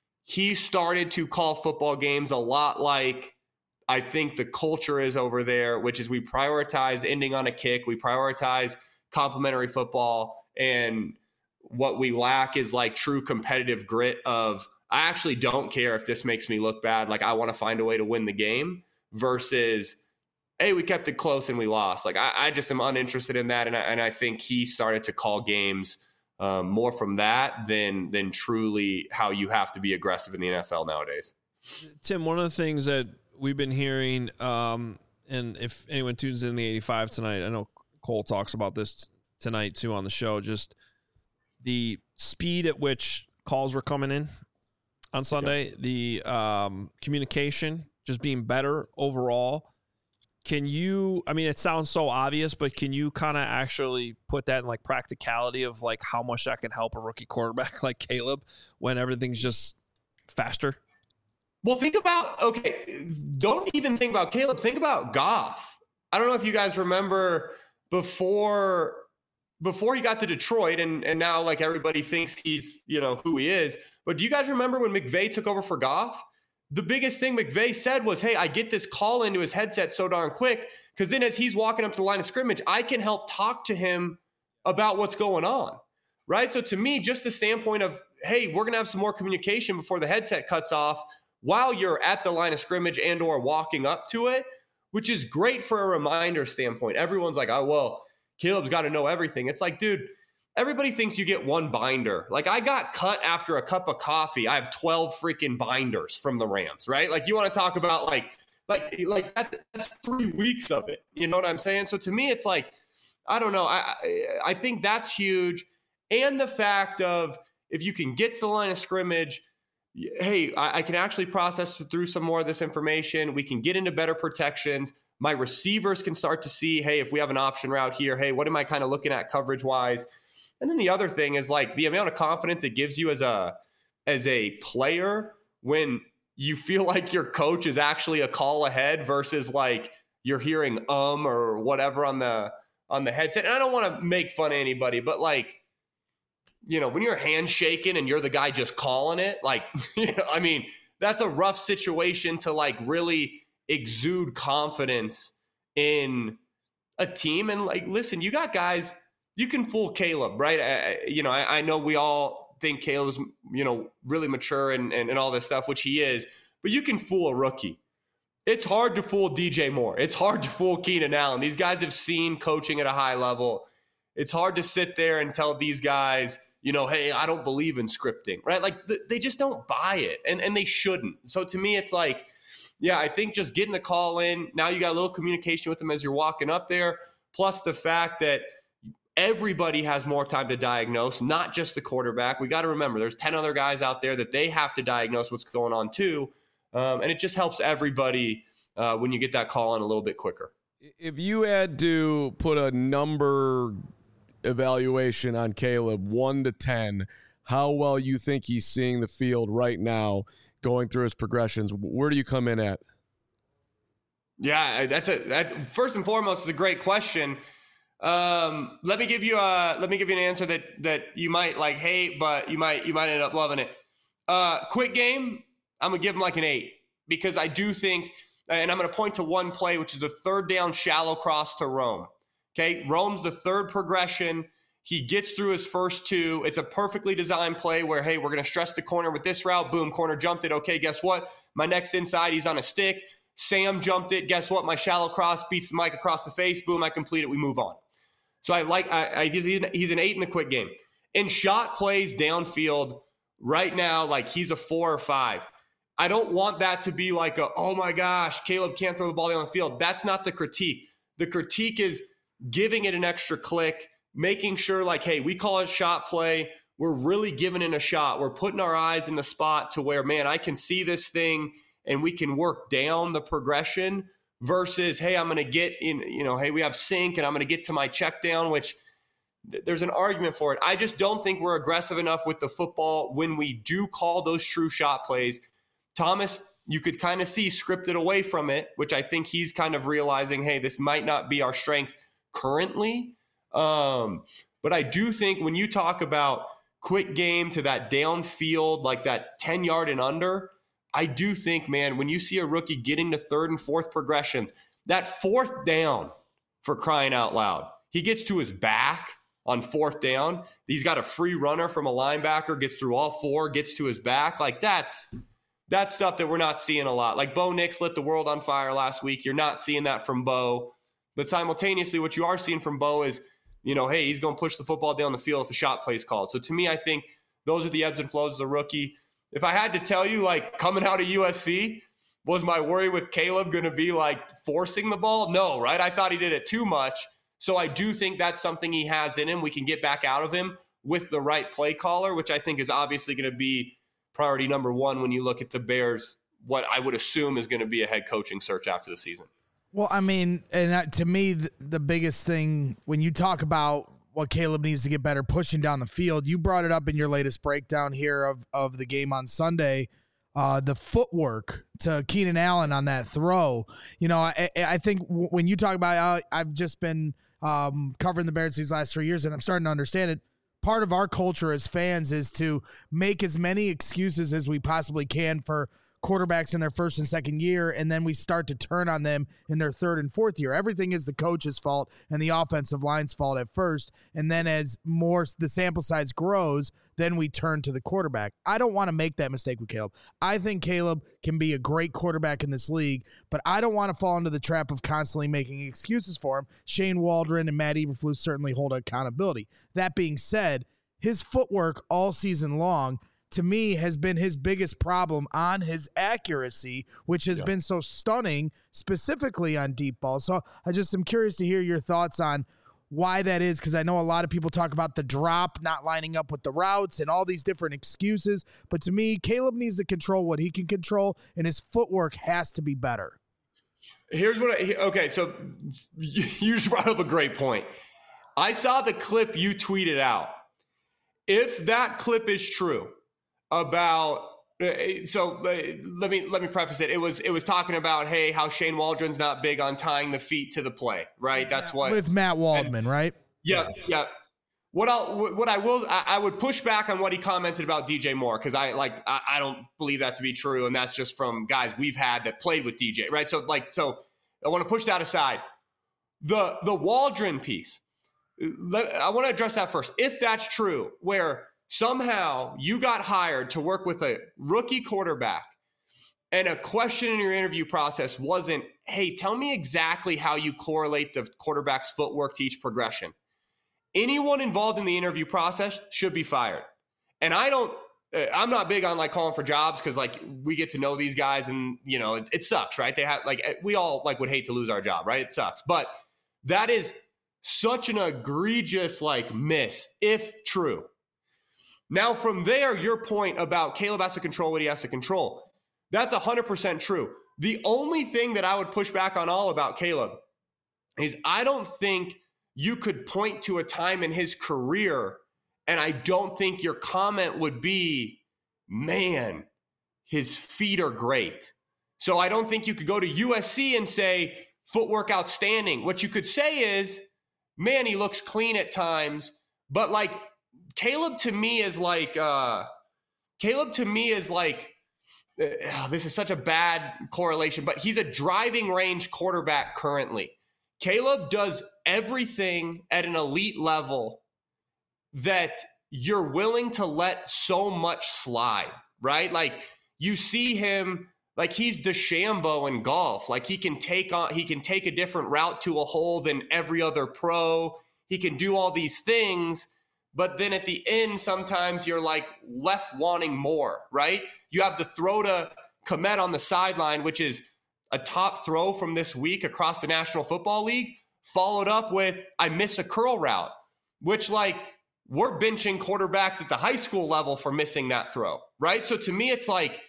he started to call football games a lot like I think the culture is over there, which is we prioritize ending on a kick, we prioritize complimentary football, and what we lack is like true competitive grit of, I actually don't care if this makes me look bad. Like, I want to find a way to win the game versus, hey, we kept it close and we lost. Like, I, I just am uninterested in that. And I, and I think he started to call games um, more from that than, than truly how you have to be aggressive in the N F L nowadays. Tim, one of the things that we've been hearing, um, and if anyone tunes in the eighty-five tonight, I know Cole talks about this tonight too on the show, just the speed at which calls were coming in on Sunday, yeah. the um, communication just being better overall. Can you, I mean, it sounds so obvious, but can you kind of actually put that in like practicality of like how much that can help a rookie quarterback like Caleb when everything's just faster? Well, think about, okay, don't even think about Caleb. Think about Goff. I don't know if you guys remember before before he got to Detroit, and, and now like everybody thinks he's, you know, who he is. But do you guys remember when McVay took over for Goff? The biggest thing McVay said was, hey, I get this call into his headset so darn quick, because then as he's walking up to the line of scrimmage, I can help talk to him about what's going on, right? So to me, just the standpoint of, hey, we're going to have some more communication before the headset cuts off while you're at the line of scrimmage and or walking up to it, which is great for a reminder standpoint. Everyone's like, oh, well, Caleb's got to know everything. It's like, dude, everybody thinks you get one binder. Like, I got cut after a cup of coffee. I have twelve freaking binders from the Rams, right? Like, you want to talk about like, like, like that, that's three weeks of it. You know what I'm saying? So to me, it's like, I don't know. I, I, I think that's huge. And the fact of, if you can get to the line of scrimmage, hey, I, I can actually process through some more of this information. We can get into better protections. My receivers can start to see, hey, if we have an option route here, hey, what am I kind of looking at coverage wise? And then the other thing is like the amount of confidence it gives you as a as a player when you feel like your coach is actually a call ahead versus like you're hearing um or whatever on the on the headset. And I don't want to make fun of anybody, but like, you know, when you're handshaking and you're the guy just calling it, like, you know, I mean, that's a rough situation to like really exude confidence in a team. And like, listen, you got guys, you can fool Caleb, right? I, you know, I, I know we all think Caleb's, you know, really mature and, and, and all this stuff, which he is, but you can fool a rookie. It's hard to fool D J Moore. It's hard to fool Keenan Allen. These guys have seen coaching at a high level. It's hard to sit there and tell these guys, you know, hey, I don't believe in scripting, right? Like th- they just don't buy it, and, and they shouldn't. So to me, it's like, yeah, I think just getting the call in, now you got a little communication with them as you're walking up there, plus the fact that everybody has more time to diagnose, not just the quarterback. We got to remember there's ten other guys out there that they have to diagnose what's going on too, um, and it just helps everybody uh, when you get that call in a little bit quicker. If you had to put a number evaluation on Caleb, one to ten, how well you think he's seeing the field right now going through his progressions, where do you come in at? Yeah, that's a that first and foremost is a great question. Um, let me give you a let me give you an answer that that you might like hate, but you might you might end up loving it. Uh, quick game, I'm gonna give him like an eight because I do think, and I'm gonna point to one play, which is the third down shallow cross to Rome. Okay, Rome's the third progression. He gets through his first two. It's a perfectly designed play where, hey, we're going to stress the corner with this route. Boom, corner jumped it. Okay, guess what? My next inside, he's on a stick. Sam jumped it. Guess what? My shallow cross beats the mic across the face. Boom, I complete it. We move on. So I like, I, I he's, he's an eight in the quick game. In shot plays downfield right now, like he's a four or five. I don't want that to be like a, oh my gosh, Caleb can't throw the ball down the field. That's not the critique. The critique is giving it an extra click, making sure like, hey, we call it shot play. We're really giving it a shot. We're putting our eyes in the spot to where, man, I can see this thing and we can work down the progression versus, hey, I'm going to get in, you know, hey, we have sync and I'm going to get to my check down, which th- there's an argument for it. I just don't think we're aggressive enough with the football when we do call those true shot plays. Thomas, you could kind of see scripted away from it, which I think he's kind of realizing, hey, this might not be our strength currently. Um, but I do think when you talk about quick game to that downfield, like that ten yard and under, I do think, man, when you see a rookie getting to third and fourth progressions, that fourth down, for crying out loud, he gets to his back on fourth down. He's got a free runner from a linebacker, gets through all four, gets to his back. Like that's that's stuff that we're not seeing a lot. Like Bo Nix lit the world on fire last week. You're not seeing that from Bo. But simultaneously, what you are seeing from Bo is, you know, hey, he's going to push the football down the field if a shot play is called. So to me, I think those are the ebbs and flows as a rookie. If I had to tell you, like, coming out of U S C, was my worry with Caleb going to be, like, forcing the ball? No, right? I thought he did it too much. So I do think that's something he has in him. We can get back out of him with the right play caller, which I think is obviously going to be priority number one when you look at the Bears, what I would assume is going to be a head coaching search after the season. Well, I mean, and that, to me, the, the biggest thing when you talk about what Caleb needs to get better pushing down the field, you brought it up in your latest breakdown here of, of the game on Sunday, uh, the footwork to Keenan Allen on that throw. You know, I, I think w- when you talk about, uh, I've just been um, covering the Bears these last three years, and I'm starting to understand it. Part of our culture as fans is to make as many excuses as we possibly can for quarterbacks in their first and second year, and then we start to turn on them in their third and fourth year. Everything is the coach's fault and the offensive line's fault at first, and then as more the sample size grows, then we turn to the quarterback. I don't want to make that mistake with Caleb. I think Caleb can be a great quarterback in this league, but I don't want to fall into the trap of constantly making excuses for him. Shane Waldron and Matt Eberflus certainly hold accountability. That being said, his footwork all season long, to me, has been his biggest problem on his accuracy, which has yeah. been so stunning, specifically on deep balls. So I just am curious to hear your thoughts on why that is, because I know a lot of people talk about the drop not lining up with the routes and all these different excuses. But to me, Caleb needs to control what he can control, and his footwork has to be better. Here's what I, okay, so you just brought up a great point. I saw the clip you tweeted out. If that clip is true, about so let me let me preface it. It was it was talking about, hey, how Shane Waldron's not big on tying the feet to the play, right? That's what with Matt Waldman, and, right? Yeah, yeah. yeah. What I what I will I, I would push back on what he commented about D J Moore, because I like I, I don't believe that to be true, and that's just from guys we've had that played with D J, right? So like so I want to push that aside. The the Waldron piece, let, I want to address that first. If that's true, where somehow you got hired to work with a rookie quarterback and a question in your interview process wasn't, hey, tell me exactly how you correlate the quarterback's footwork to each progression. Anyone involved in the interview process should be fired. And I don't, I'm not big on like calling for jobs, because like we get to know these guys and, you know, it, it sucks, right? They have like, we all like would hate to lose our job, right? It sucks. But that is such an egregious like miss, if true. Now, from there, your point about Caleb has to control what he has to control, that's one hundred percent true. The only thing that I would push back on all about Caleb is I don't think you could point to a time in his career, and I don't think your comment would be, man, his feet are great. So I don't think you could go to U S C and say, footwork outstanding. What you could say is, man, he looks clean at times, but like, Caleb to me is like, uh, Caleb to me is like, uh, this is such a bad correlation, but he's a driving range quarterback currently. Caleb does everything at an elite level that you're willing to let so much slide, right? Like you see him, like he's DeChambeau in golf. Like he can take on, he can take a different route to a hole than every other pro. He can do all these things, but then at the end, sometimes you're like left wanting more, right? You have the throw to Kmet on the sideline, which is a top throw from this week across the National Football League, followed up with, I miss a curl route, which like we're benching quarterbacks at the high school level for missing that throw, right? So to me, it's like,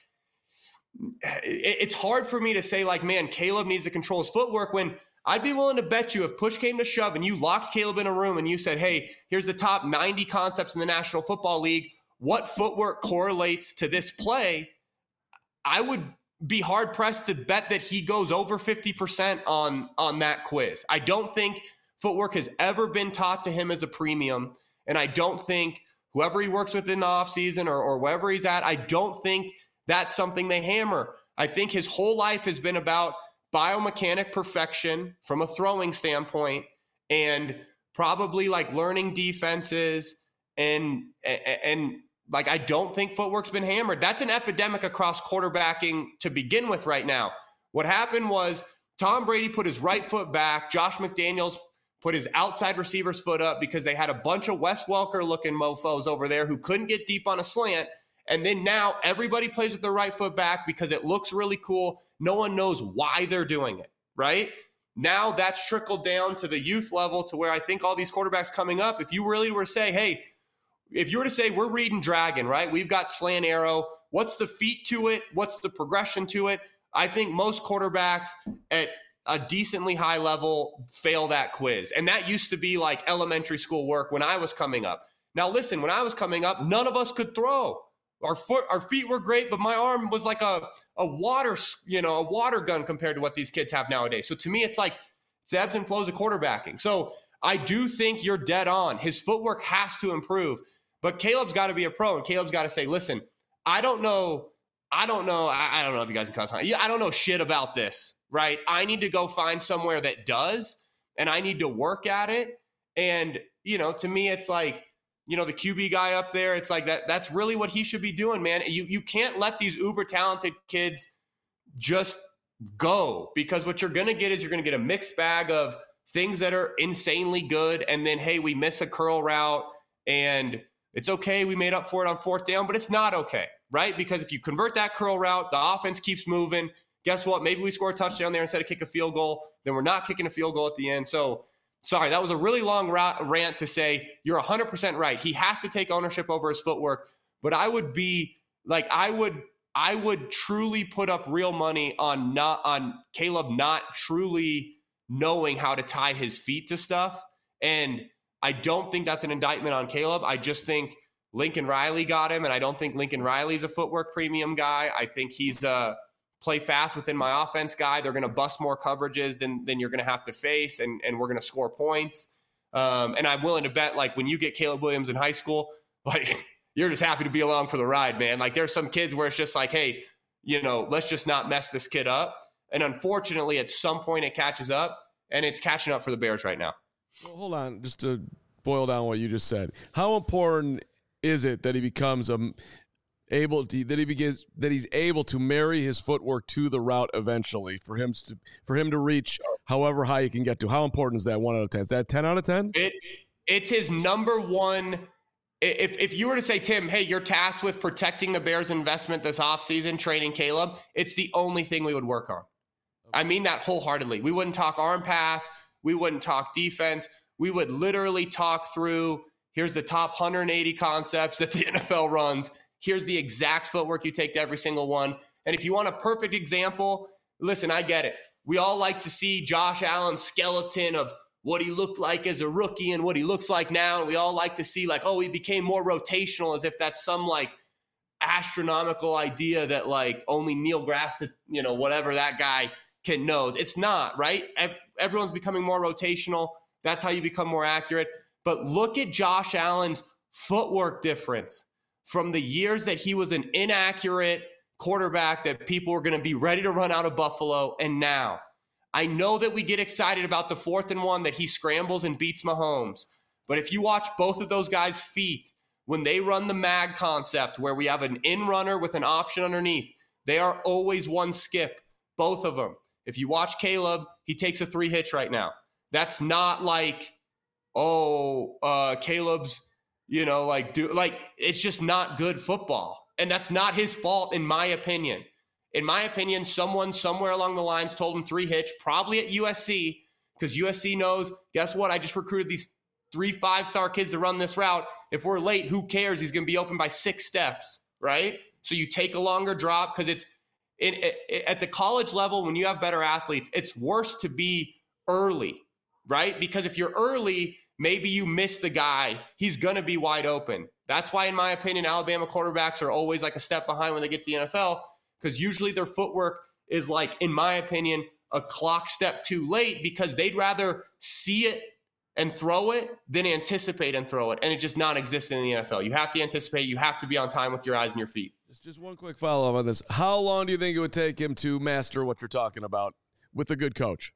it's hard for me to say like, man, Caleb needs to control his footwork when I'd be willing to bet you if push came to shove and you locked Caleb in a room and you said, hey, here's the top ninety concepts in the National Football League, what footwork correlates to this play, I would be hard pressed to bet that he goes over fifty percent on, on that quiz. I don't think footwork has ever been taught to him as a premium. And I don't think whoever he works with in the offseason or, or wherever he's at, I don't think that's something they hammer. I think his whole life has been about biomechanic perfection from a throwing standpoint and probably like learning defenses and, and, and like, I don't think footwork's been hammered. That's an epidemic across quarterbacking to begin with right now. What happened was Tom Brady put his right foot back. Josh McDaniels put his outside receiver's foot up because they had a bunch of Wes Welker looking mofos over there who couldn't get deep on a slant. And then now everybody plays with their right foot back because it looks really cool. No one knows why they're doing it, right? Now that's trickled down to the youth level to where I think all these quarterbacks coming up, if you really were to say, hey, if you were to say we're reading Dragon, right? We've got slant arrow. What's the feet to it? What's the progression to it? I think most quarterbacks at a decently high level fail that quiz. And that used to be like elementary school work when I was coming up. Now, listen, when I was coming up, none of us could throw. Our foot, our feet were great, but my arm was like a, a water, you know, a water gun compared to what these kids have nowadays. So to me, it's like it's ebbs and flows of quarterbacking. So I do think you're dead on. His footwork has to improve, but Caleb's got to be a pro, and Caleb's got to say, listen, I don't know. I don't know. I, I don't know if you guys can cuss on. I don't know shit about this, right? I need to go find somewhere that does, and I need to work at it. And, you know, to me, it's like, you know, the Q B guy up there, it's like that. That's really what he should be doing, man. You you can't let these uber talented kids just go, because what you're going to get is you're going to get a mixed bag of things that are insanely good. And then, hey, we miss a curl route and it's okay. We made up for it on fourth down, but it's not okay, right? Because if you convert that curl route, the offense keeps moving. Guess what? Maybe we score a touchdown there instead of kick a field goal. Then we're not kicking a field goal at the end. So sorry, that was a really long rant to say you're one hundred percent right. He has to take ownership over his footwork, but I would be like, I would, I would truly put up real money on not on Caleb not truly knowing how to tie his feet to stuff. And I don't think that's an indictment on Caleb. I just think Lincoln Riley got him, and I don't think Lincoln Riley's a footwork premium guy. I think he's a play fast within my offense guy. They're going to bust more coverages than than you're going to have to face, and, and we're going to score points. Um, and I'm willing to bet, like, when you get Caleb Williams in high school, like, you're just happy to be along for the ride, man. Like, there's some kids where it's just like, hey, you know, let's just not mess this kid up. And unfortunately, at some point it catches up, and it's catching up for the Bears right now. Well, hold on, just to boil down what you just said. How important is it that he becomes a able to, that he begins that he's able to marry his footwork to the route eventually for him to for him to reach however high he can get to? How important is that? One out of ten? Is that ten out of ten? It it's his number one. If if you were to say, Tim, hey, you're tasked with protecting the Bears' investment this offseason, training Caleb, it's the only thing we would work on. I mean that wholeheartedly. We wouldn't talk arm path. We wouldn't talk defense. We would literally talk through, here's the top one hundred eighty concepts that the N F L runs. Here's the exact footwork you take to every single one. And if you want a perfect example, listen, I get it. We all like to see Josh Allen's skeleton of what he looked like as a rookie and what he looks like now. And we all like to see, like, oh, he became more rotational, as if that's some, like, astronomical idea that, like, only Neil deGrasse, you know, whatever that guy can knows. It's not, right? Everyone's becoming more rotational. That's how you become more accurate. But look at Josh Allen's footwork difference from the years that he was an inaccurate quarterback that people were going to be ready to run out of Buffalo. And now, I know that we get excited about the fourth and one that he scrambles and beats Mahomes. But if you watch both of those guys' feet, when they run the mag concept where we have an in runner with an option underneath, They are always one skip, both of them. If you watch Caleb, he takes a three hitch right now. That's not like, oh, uh, Caleb's, you know, like, do like, it's just not good football. And that's not his fault, in my opinion. In my opinion, someone somewhere along the lines told him three hitch, probably at U S C, because U S C knows, guess what? I just recruited these three five-star kids to run this route. If we're late, who cares? He's going to be open by six steps, right? So you take a longer drop because it's in, it, at the college level, when you have better athletes, it's worse to be early, right? Because if you're early, maybe you miss the guy. He's going to be wide open. That's why, in my opinion, Alabama quarterbacks are always like a step behind when they get to the N F L, because usually their footwork is like, in my opinion, a clock step too late, because they'd rather see it and throw it than anticipate and throw it. And it just not existent in the N F L. You have to anticipate. You have to be on time with your eyes and your feet. Just, just one quick follow-up on this. How long do you think it would take him to master what you're talking about with a good coach?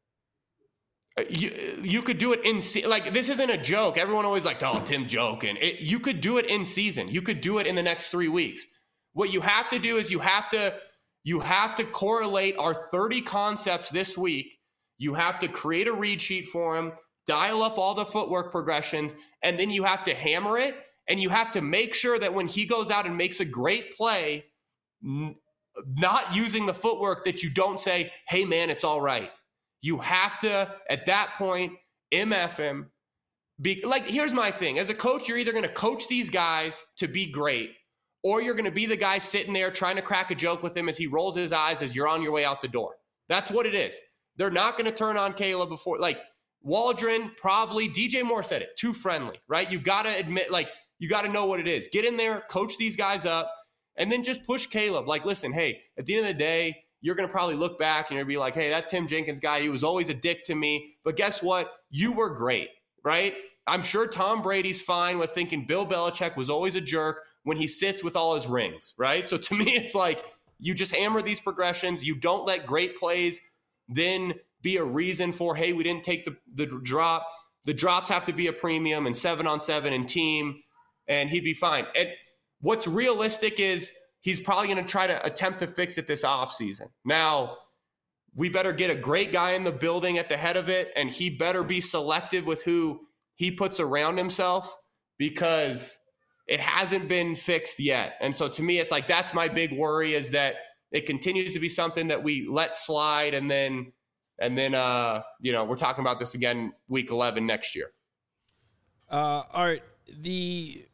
You you could do it in se- like this isn't a joke. Everyone always like, oh, Tim joking. It, you could do it in season. You could do it in the next three weeks. What you have to do is you have to you have to correlate our thirty concepts this week. You have to create a read sheet for him, dial up all the footwork progressions, and then you have to hammer it. And you have to make sure that when he goes out and makes a great play, n- not using the footwork, that you don't say, hey man, it's all right. You have to, at that point, M F him. Be, like, here's my thing. As a coach, you're either going to coach these guys to be great, or you're going to be the guy sitting there trying to crack a joke with him as he rolls his eyes as you're on your way out the door. That's what it is. They're not going to turn on Caleb before, like, Waldron, probably, D J Moore said it, too friendly, right? You got to admit, like, you got to know what it is. Get in there, coach these guys up, and then just push Caleb. Like, listen, hey, at the end of the day, you're going to probably look back and you're going to be like, hey, that Tim Jenkins guy, he was always a dick to me. But guess what? You were great, right? I'm sure Tom Brady's fine with thinking Bill Belichick was always a jerk when he sits with all his rings, right? So to me, it's like you just hammer these progressions. You don't let great plays then be a reason for, hey, we didn't take the, the drop. The drops have to be a premium and seven on seven and team, and he'd be fine. And what's realistic is he's probably going to try to attempt to fix it this offseason. Now, we better get a great guy in the building at the head of it, and he better be selective with who he puts around himself, because it hasn't been fixed yet. And so to me, it's like, that's my big worry, is that it continues to be something that we let slide, and then, and then, uh, you know, we're talking about this again week eleven next year. Uh, all right. The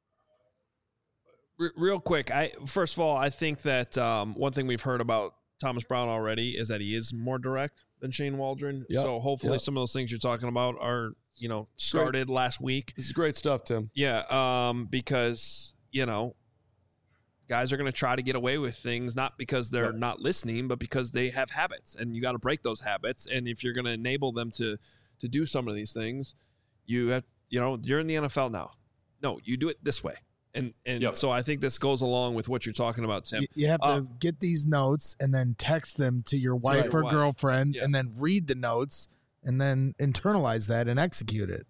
r- real quick, I first of all, I think that um, one thing we've heard about Thomas Brown already is that he is more direct than Shane Waldron. Yep. So hopefully Yep. some of those things you're talking about are, you know, started Great. last week. This is great stuff, Tim. Yeah, um, because, you know, guys are going to try to get away with things, not because they're Yep. not listening, but because they have habits, and you got to break those habits. And if you're going to enable them to to do some of these things, you have, you know, you're in the N F L now. No, you do it this way. And and Yep. so I think this goes along with what you're talking about, Tim. You, you have to Uh, get these notes and then text them to your wife Right. or Wife. girlfriend, Yeah. and then read the notes and then internalize that and execute it.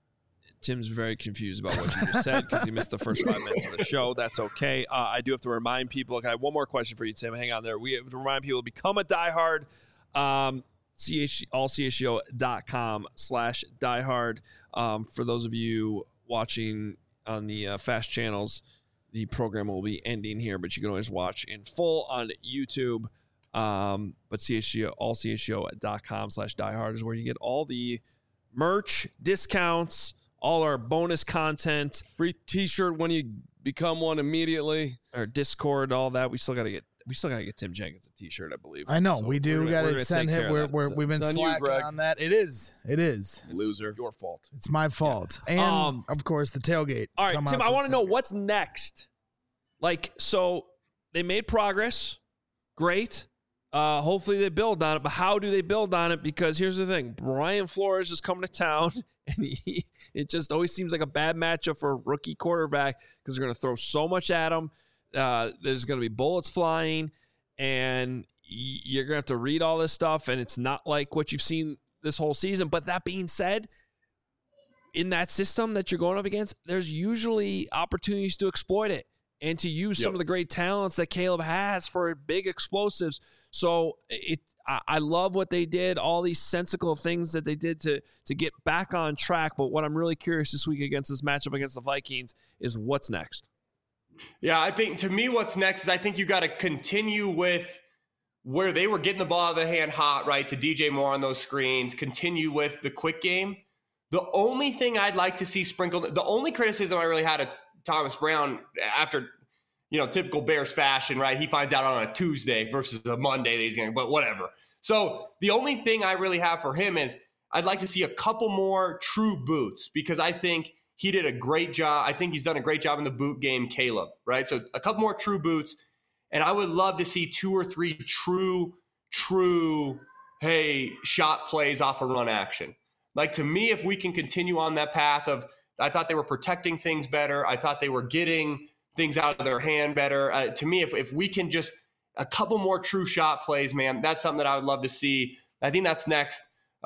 Tim's very confused about what you just said because he missed the first five minutes of the show. That's okay. Uh, I do have to remind people. Okay, I have one more question for you, Tim. Hang on there. We have to remind people to become a diehard. Um, C H, all C H G O dot com slash diehard. Um, for those of you watching on the uh, fast channels, the program will be ending here, but you can always watch in full on YouTube. Um, but C H G O, all C H G O dot com slash diehard is where you get all the merch, discounts, all our bonus content, Free T-shirt when you become one immediately. our Discord, all that. We still got to get. We still got to get Tim Jenkins a T-shirt, I believe. I know So we do. we're We gonna- got we're to gonna send take care him. of We're, that. we're, It's- we've been it's on you, slacking Greg. on that. It is. It is. Loser. Your fault. It's my fault. And Um, of course, the tailgate. All right, Come Tim. out I the want to know tailgate. what's next. Like, so they made progress. Great. Uh, hopefully they build on it. But how do they build on it? Because here's the thing: Brian Flores is coming to town, and he, it just always seems like a bad matchup for a rookie quarterback because they're going to throw so much at him. Uh, there's going to be bullets flying, and y- you're going to have to read all this stuff, and it's not like what you've seen this whole season. But that being said, in that system that you're going up against, there's usually opportunities to exploit it. and to use Yep. some of the great talents that Caleb has for big explosives. So it, I, I love what they did, all these sensical things that they did to to get back on track. But what I'm really curious this week against this matchup against the Vikings is what's next. Yeah, I think to me, what's next is I think you got to continue with where they were getting the ball out of the hand hot, right, to D J Moore on those screens, continue with the quick game. The only thing I'd like to see sprinkled, the only criticism I really had of Thomas Brown after, you know, typical Bears fashion, right? He finds out on a Tuesday versus a Monday that he's going to, but whatever. So the only thing I really have for him is I'd like to see a couple more true boots because I think he did a great job. I think he's done a great job in the boot game, Caleb, right? So a couple more true boots. And I would love to see two or three true, true, hey, shot plays off a run action. Like, to me, if we can continue on that path of, I thought they were protecting things better. I thought they were getting things out of their hand better. Uh, to me, if, if we can just a couple more true shot plays, man, that's something that I would love to see. I think that's next.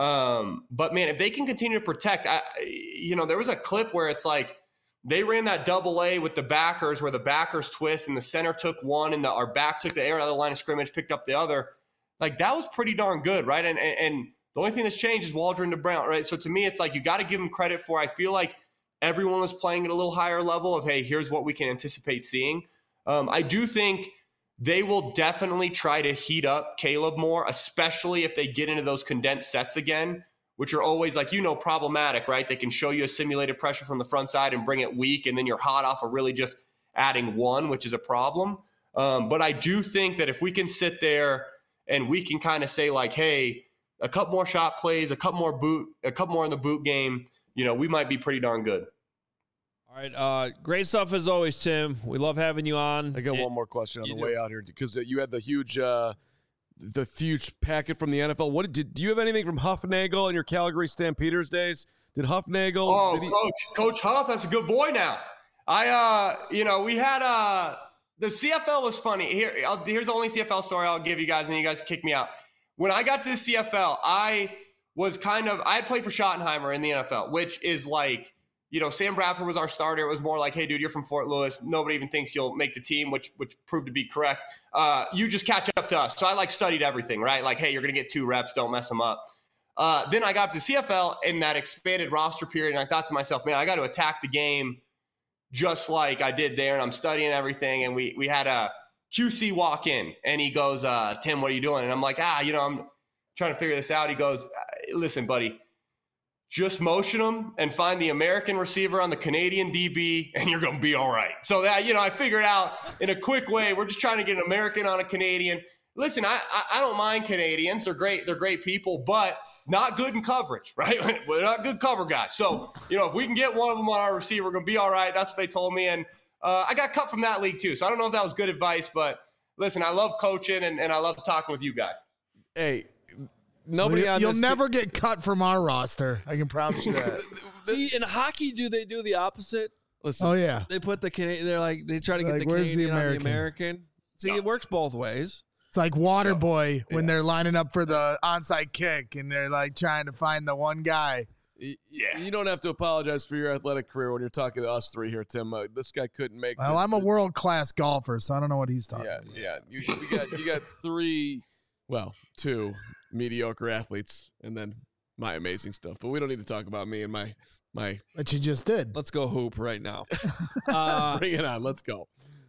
Um, but, man, if they can continue to protect, I, you know, there was a clip where it's like, they ran that double A with the backers where the backers twist and the center took one and the, our back took the air out of the line of scrimmage, picked up the other. Like, that was pretty darn good, right? And and, and the only thing that's changed is Waldron to Brown, right? So to me, it's like you got to give them credit for, I feel like everyone was playing at a little higher level of, hey, here's what we can anticipate seeing. Um, I do think they will definitely try to heat up Caleb more, especially if they get into those condensed sets again, which are always, like, you know, problematic, right? They can show you a simulated pressure from the front side and bring it weak, and then you're hot off of really just adding one, which is a problem. Um, but I do think that if we can sit there and we can kind of say, like, hey, a couple more shot plays, a couple more boot, a couple more in the boot game, you know, we might be pretty darn good. All right. Uh, great stuff as always, Tim. We love having you on. I got And one more question on you the do. way out here because you had the huge, uh, the huge packet from the N F L. What did do you have anything from Huffnagel in your Calgary Stampeders days? Did Huffnagel? Oh, did he, coach, Coach Huff, that's a good boy now. I, uh, you know, we had uh, the C F L was funny. Here, I'll, here's the only C F L story I'll give you guys, and you guys kick me out. When I got to the C F L, I was kind of, I had played for Schottenheimer in the N F L, which is like, you know, Sam Bradford was our starter. It was more like, hey, dude, you're from Fort Lewis. Nobody even thinks you'll make the team, which which proved to be correct. Uh, you just catch up to us. So I, like, studied everything, right? Like, hey, you're going to get two reps. Don't mess them up. Uh, then I got to the C F L in that expanded roster period, and I thought to myself, man, I got to attack the game just like I did there, and I'm studying everything. And we we had a Q C walk in, and he goes, uh, Tim, what are you doing? And I'm like, ah, you know, I'm trying to figure this out. He goes, listen, buddy, just motion them and find the American receiver on the Canadian D B, and you're going to be all right. So that, you know, I figured out in a quick way, we're just trying to get an American on a Canadian. Listen, I, I, I don't mind Canadians. They're great. They're great people, but not good in coverage, right? We're not good cover guys. So, you know, if we can get one of them on our receiver, we're going to be all right. That's what they told me. And uh, I got cut from that league too. So I don't know if that was good advice, but listen, I love coaching and, and I love talking with you guys. hey, nobody Well, on you'll this never get cut from our roster. I can promise you that. See, in hockey, do they do the opposite? Listen, Oh yeah, They put the Canadian. They're like they try to get Like, the where's the Canadian on the American? American. See, No. it works both ways. it's like Waterboy when Yeah. they're lining up for the onside kick and they're like trying to find the one guy. y- Yeah. you don't have to apologize for your athletic career when you're talking to us three here, Tim. Uh, this guy couldn't make. Well, the- I'm a the- world class golfer, so I don't know what he's talking Yeah, about. yeah. You, you got you got three, well, two mediocre athletes, and then my amazing stuff. But we don't need to talk about me and my my. But you just did. Let's go hoop right now. Uh, Bring it on. Let's go.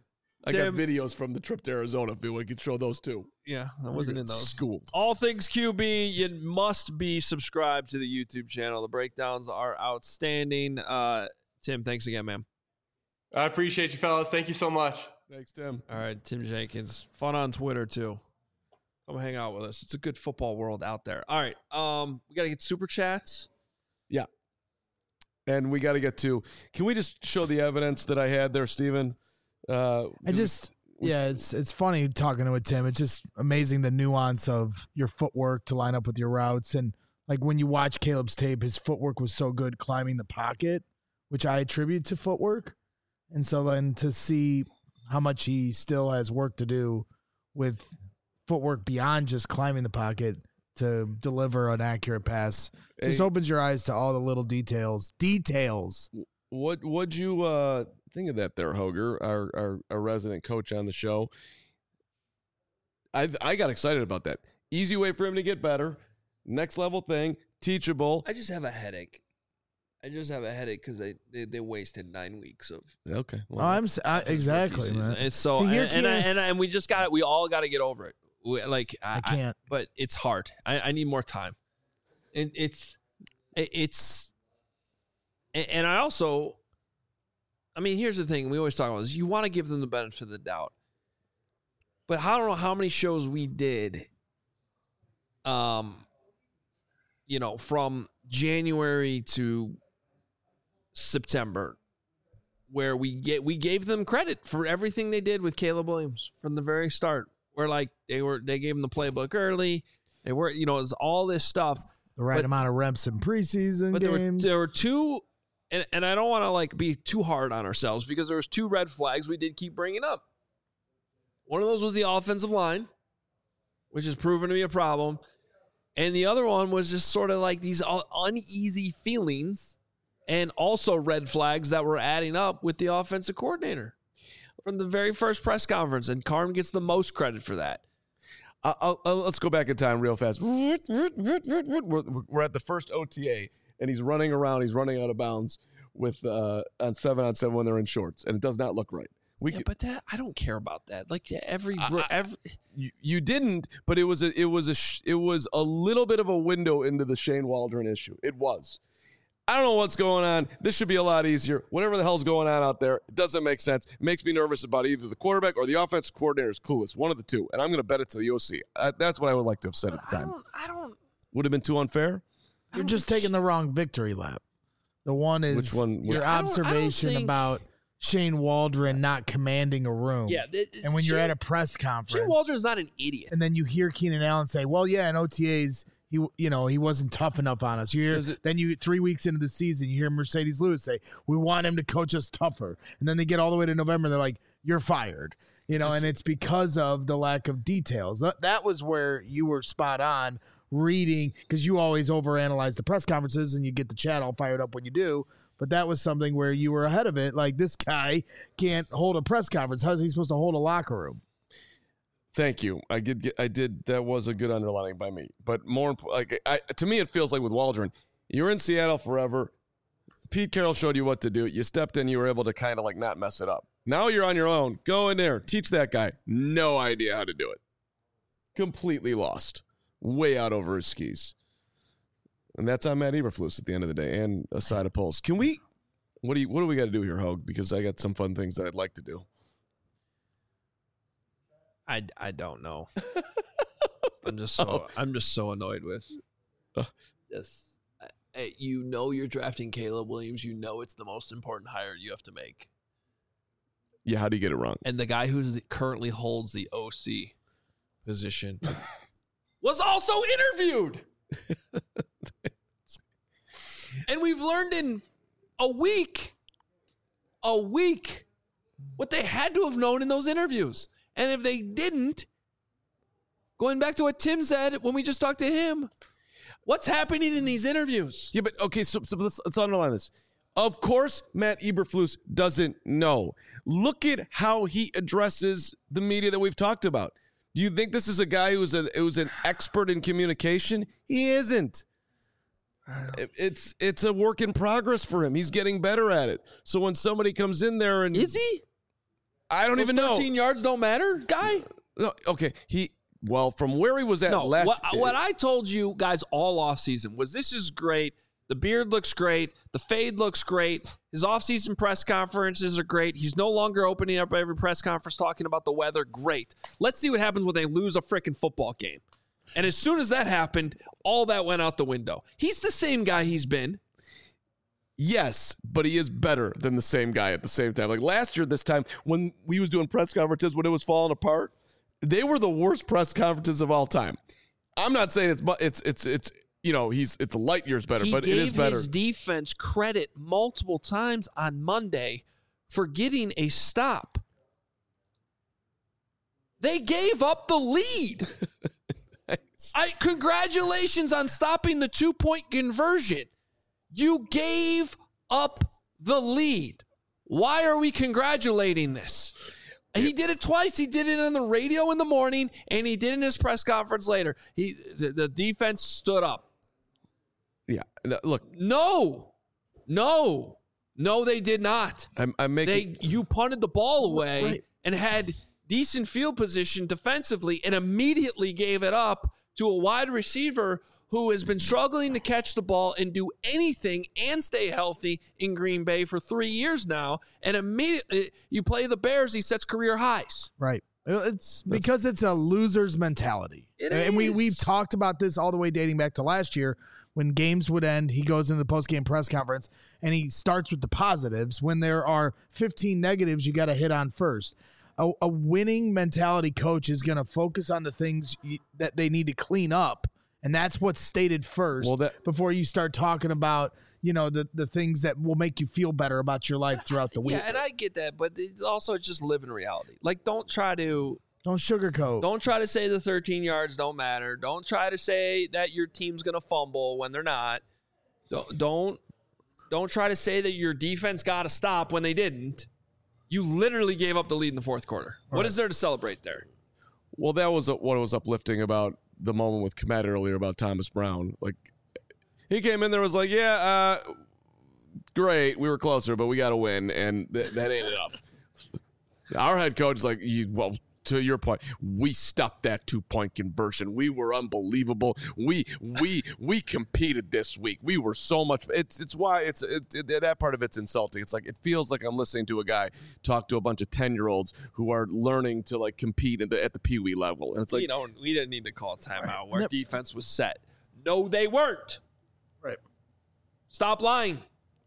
I Tim- got videos from the trip to Arizona. If we could show those too. yeah, I wasn't in those. Schooled. All things Q B, you must be subscribed to the YouTube channel. The breakdowns are outstanding. Uh, Tim, thanks again, man. I appreciate you, fellas. Thank you so much. Thanks, Tim. All right, Tim Jenkins. Fun on Twitter, too. Come hang out with us. It's a good football world out there. All right, um, we got to get super chats. And we got to get to. Can we just show the evidence that I had there, Steven? Uh, I just, we- yeah, it's it's funny talking to a Tim. It's just amazing the nuance of your footwork to line up with your routes. And like when you watch Caleb's tape, his footwork was so good climbing the pocket, which I attribute to footwork. And so then to see how much he still has work to do with footwork beyond just climbing the pocket to deliver an accurate pass just Hey. opens your eyes to all the little details. Details. What would you uh, think of that there, Hoger, our, our, our resident coach on the show. I I got excited about that. Easy way for him to get better. Next level thing, teachable. I just have a headache. I just have a headache because they, they they wasted nine weeks of. Okay. Oh, I'm s- I, exactly, season. man. It's so To and hear and, I, Keenan- and I- and we just got it. We all got to get over it. We, like I, I can't. I, but it's hard. I, I need more time. It, it's it, it's and, and I also. I mean, here's the thing. We always talk about this. You want to give them the benefit of the doubt. But I don't know how many shows we did, um, you know, from January to September, where we get we gave them credit for everything they did with Caleb Williams from the very start. Where like they were they gave him the playbook early. They were, you know, it was all this stuff. The right but, amount of reps in preseason but there were, games. there were two, and, and I don't want to like be too hard on ourselves because there was two red flags we did keep bringing up. One of those was the offensive line, which has proven to be a problem. And the other one was just sort of like these uneasy feelings and also red flags that were adding up with the offensive coordinator from the very first press conference. And Carm gets the most credit for that. I'll, I'll, let's go back in time real fast. We're, we're at the first O T A, and he's running around. He's running out of bounds with uh, on seven on seven when they're in shorts, and it does not look right. We Yeah, could, but that I don't care about that. Like every I- every you, you didn't, but it was a it was a sh- it was a little bit of a window into the Shane Waldron issue. It was. I don't know what's going on. This should be a lot easier. Whatever the hell's going on out there, it doesn't make sense. It makes me nervous about either the quarterback or the offensive coordinator is clueless. One of the two, and I'm going to bet it to the O C. Uh, that's what I would like to have said at the I time. don't I don't Would have been too unfair. I You're don't just think taking the wrong victory lap. The one is Which one? your Yeah, I don't- I don't observation think- about Shane Waldron not commanding a room. Yeah, th- And when you're Shane- at a press conference, Shane Waldron's not an idiot. and then you hear Keenan Allen say, "Well, yeah, in O T As, he, you know, he wasn't tough enough on us." You hear, Does it- then you three weeks into the season, you hear Mercedes Lewis say, "We want him to coach us tougher," and then they get all the way to November, and they're like, "You're fired," you know, Just- and it's because of the lack of details. That, that was where you were spot on reading, because you always overanalyze the press conferences, and you get the chat all fired up when you do. But that was something where you were ahead of it. Like, this guy can't hold a press conference. How's he supposed to hold a locker room? Thank you. I did. Get, I did. That was a good underlining by me. But more imp- like I, to me, it feels like with Waldron, you're in Seattle forever. Pete Carroll showed you what to do. You stepped in. You were able to kind of like not mess it up. Now you're on your own. Go in there. Teach that guy. No idea how to do it. Completely lost. Way out over his skis. And that's on Matt Eberflus at the end of the day, and a side of Pulse. Can we? What do you? What do we got to do here, Hogue? Because I got some fun things that I'd like to do. I, I don't know. I'm just so Oh. I'm just so annoyed with Uh. this. I- You know you're drafting Caleb Williams. You know it's the most important hire you have to make, Yeah. How do you get it wrong? and the guy who currently holds the O C position was also interviewed. And we've learned in a week, a week, what they had to have known in those interviews. And if they didn't, going back to what Tim said when we just talked to him, what's happening in these interviews? Yeah, but okay, so, so let's, let's underline this. Of course, Matt Eberflus doesn't know. Look at how he addresses the media that we've talked about. Do you think this is a guy who's a who's an expert in communication? He isn't. It- It's it's a work in progress for him. He's getting better at it. So when somebody comes in there and Is he? I don't Those even know. thirteen yards don't matter, guy? No, okay, he well from where he was at No, last. what, what I told you guys all offseason was this is great. The beard looks great. The fade looks great. His offseason press conferences are great. He's no longer opening up every press conference talking about the weather. Great. Let's see what happens when they lose a freaking football game. And as soon as that happened, all that went out the window. He's the same guy he's been. Yes, but he is better than the same guy at the same time. Like last year, this time when we was doing press conferences when it was falling apart, they were the worst press conferences of all time. I'm not saying it's but it's it's it's you know he's it's light years better, He but gave it is better. his defense credit multiple times on Monday for getting a stop. They gave up the lead. I congratulations on stopping the two-point conversion. You gave up the lead. Why are we congratulating this? He did it twice. He did it on the radio in the morning, and he did it in his press conference later. He the, the defense stood up. Yeah, look. No, no, no, they did not. I'm, I'm making. They you punted the ball away Right. and had decent field position defensively, and immediately gave it up to a wide receiver who has been struggling to catch the ball and do anything and stay healthy in Green Bay for three years now. And immediately you play the Bears, he sets career highs. Right. It's because it's a loser's mentality. It and we, is. we've talked about this all the way dating back to last year when games would end. He goes into the post-game press conference and he starts with the positives. When there are fifteen negatives, you got to hit on first. A, a winning mentality coach is going to focus on the things you, that they need to clean up. And that's what's stated first Well, that- before you start talking about, you know, the, the things that will make you feel better about your life throughout the week. Yeah, and I get that, but it's also just live in reality. Like, don't try to Don't sugarcoat. don't try to say the thirteen yards don't matter. Don't try to say that your team's gonna fumble when they're not. Don't don't, don't try to say that your defense got to stop when they didn't. You literally gave up the lead in the fourth quarter. What Right. is there to celebrate there? Well, that was what was uplifting about the moment with Komet earlier about Thomas Brown. Like, he came in there was like, yeah, uh, great, we were closer, but we got to win, and th- that ain't enough. Our head coach is like, you, well, to your point, we stopped that two-point conversion. We were unbelievable. We we we competed this week. We were so much. It's it's why it's it, it, that part of it's insulting. It's like it feels like I'm listening to a guy talk to a bunch of ten-year-olds who are learning to like compete at the at the Pee Wee level, and it's like, you know, we didn't need to call a timeout. Right. Our Yep. defense was set. No, they weren't. Right. Stop lying.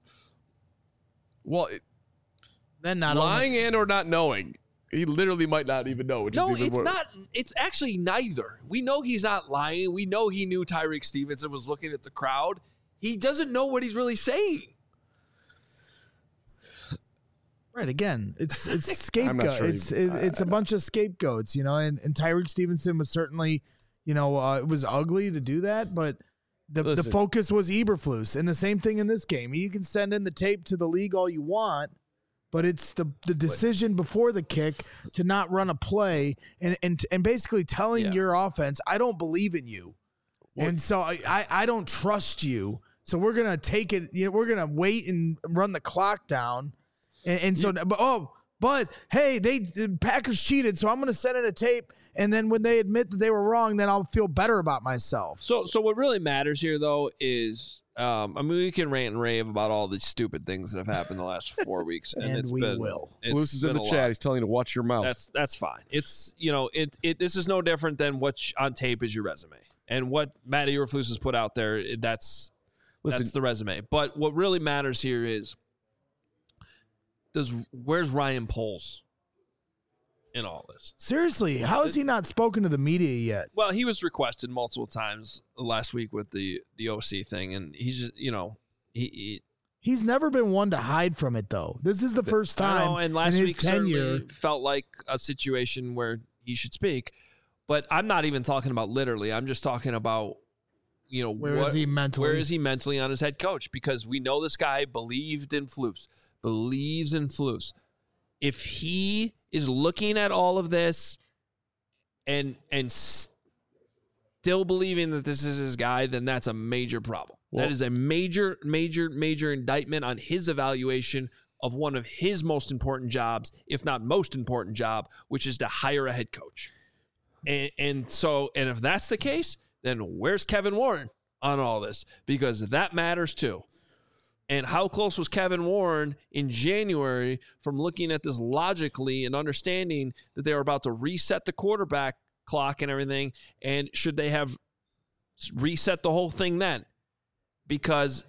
well, it, Then not lying only, and or not knowing. He literally might not even know. Which No, is even it's more, not. It's actually neither. We know he's not lying. We know he knew Tyreek Stevenson was looking at the crowd. He doesn't know what he's really saying. right again. It's it's I'm not scapegoat. sure it's he- it, it's a bunch of scapegoats, you know. And, and Tyreek Stevenson was certainly, you know, uh, it was ugly to do that, but the the Listen. focus was Eberflus, and the same thing in this game. You can send in the tape to the league all you want, but it's the the decision before the kick to not run a play and and and basically telling Yeah. your offense, I don't believe in you, and so I, I I don't trust you. So we're gonna take it. You know, we're gonna wait and run the clock down, and, and so but oh, but hey, they the Packers cheated, so I'm gonna send in a tape, and then when they admit that they were wrong, then I'll feel better about myself. So, so what really matters here, though, is um, I mean, we can rant and rave about all the stupid things that have happened the last four weeks, and, And it's we been, will. it's Luce is in been the a chat. lot. He's telling you to watch your mouth. That's that's fine. It's you know it it this is no different than what on tape is your resume, and what Matt Eberflus has put out there. That's Listen, that's the resume. But what really matters here is does where's Ryan Poles in all this? Seriously, how has he not spoken to the media yet? Well, he was requested multiple times last week with the the O C thing, and he's just you know he. he He's never been one to hide from it, though. This is the first I time know, and last in his week tenure. certainly felt like a situation where he should speak. But I'm not even talking about literally. I'm just talking about, you know, Where is what, he mentally? Where is he mentally on his head coach? Because we know this guy believed in Flus, believes in Flus. If he is looking at all of this and and still believing that this is his guy, then that's a major problem. Well- that is a major, major, major indictment on his evaluation of one of his most important jobs, if not most important job, which is to hire a head coach. And, and so, and if that's the case, then where's Kevin Warren on all this? Because that matters too. And how close was Kevin Warren in January from looking at this logically and understanding that they were about to reset the quarterback clock and everything? And should they have reset the whole thing then? Because,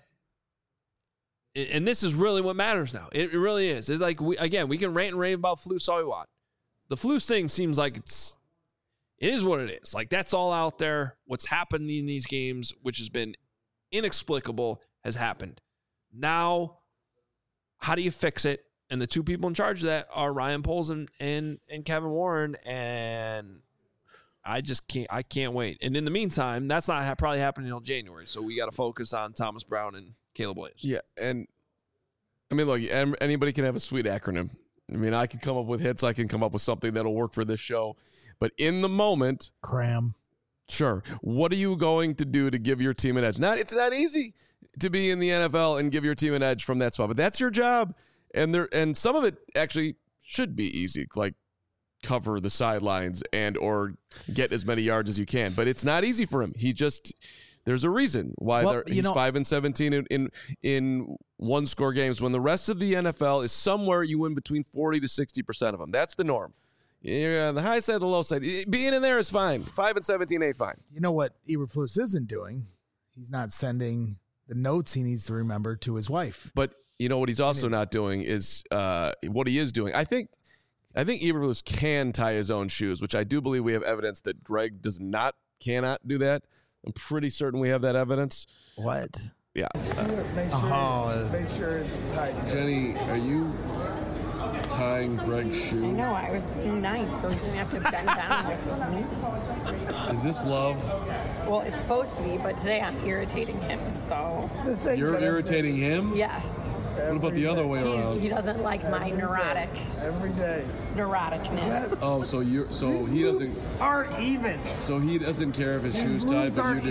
and this is really what matters now. It really is. It's like, we, again, we can rant and rave about Flus all we want. The Flus thing seems like it's, it is what it is. Like, that's all out there. What's happened in these games, which has been inexplicable, has happened. Now, how do you fix it? And the two people in charge of that are Ryan Poles and, and, and Kevin Warren. And I just can't, I can't wait. And in the meantime, that's not ha- probably happening until January. So we got to focus on Thomas Brown and Caleb Williams. yeah, and I mean, look, em- anybody can have a sweet acronym. I mean, I can come up with hits. I can come up with something that'll work for this show. But in the moment, Cram. sure. What are you going to do to give your team an edge? Not, it's not easy to be in the N F L and give your team an edge from that spot, but that's your job. And there, and some of it actually should be easy, like cover the sidelines and or get as many yards as you can. But it's not easy for him. He just there's a reason why Well, they're, you he's know- five and seventeen in, in in one score games when the rest of the N F L is somewhere you win between forty to sixty percent of them. That's the norm. You're on the high side, the low side. Being in there is fine. Five and seventeen ain't fine. You know what Eberflus isn't doing? He's not sending the notes he needs to remember to his wife. But you know what he's also not doing is uh, what he is doing. I think I think Eberflus can tie his own shoes, which I do believe we have evidence that Greg does not, cannot do that. I'm pretty certain we have that evidence. What? Yeah. Make sure, oh, Make sure it's tight. Jenny, are you tying Greg's I shoe? know, I was being nice, so he didn't have to bend down with me. Is this love? Well, it's supposed to be, but today I'm irritating him, so This ain't You're gonna irritating him? yes. What about the other way He's, around? he doesn't like my neurotic, be every day. neuroticness. Oh, so you so he doesn't Aren't even. so he doesn't care if his These shoes tied, moves but you aren't do.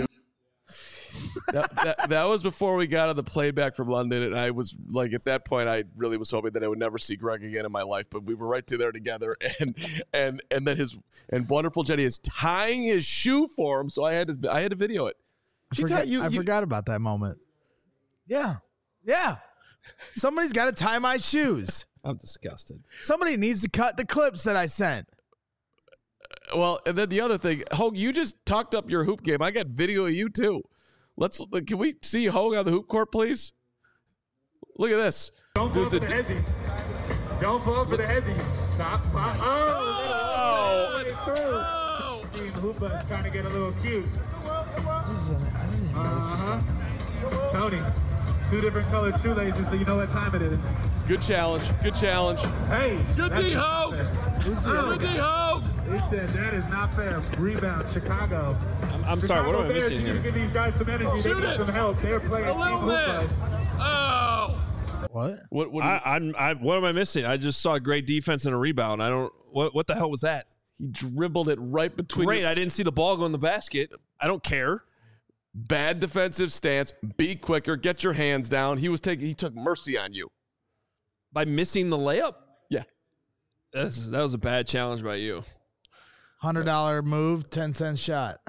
that, that, that was before we got on the plane back from London, and I was like, at that point, I really was hoping that I would never see Greg again in my life. But we were right to there together, and and and then his and wonderful Jenny is tying his shoe for him, so I had to I had to video it. I, She forgot, tied- you- I you- forgot about that moment. Yeah. Yeah. Somebody's got to tie my shoes. I'm disgusted. Somebody needs to cut the clips that I sent. Well, and then the other thing, Hogue, you just talked up your hoop game. I got video of you too. Let's can we see Hogue on the hoop court, please? Look at this. Don't fall Dude's for a the hezzy. Don't fall for the hezzy. Stop. Pop. Oh! Oh! Steve Hooper's trying to get a little cute. This is an, I didn't even know this was Uh-huh. going. Tony, two different colored shoelaces so you know what time it is. Good challenge. Good challenge. Hey! Good that's D, not Hogue. fair. Who's the other Good D, guy? Hogue. He said that is not fair. Rebound, Chicago. I'm, I'm sorry. What am I Chicago Bears, missing you need to here? give these guys some energy. Shoot they need it. some help. They're playing A little Steve bit. Hooper. Oh. What? What? What? I, I'm. I, what am I missing? I just saw great defense and a rebound. I don't. What? What the hell was that? He dribbled it right between. Great. your- I didn't see the ball go in the basket. I don't care. Bad defensive stance. Be quicker. Get your hands down. He was taking. He took mercy on you. By missing the layup. Yeah. That's, that was a bad challenge by you. one hundred dollars move, ten cent shot.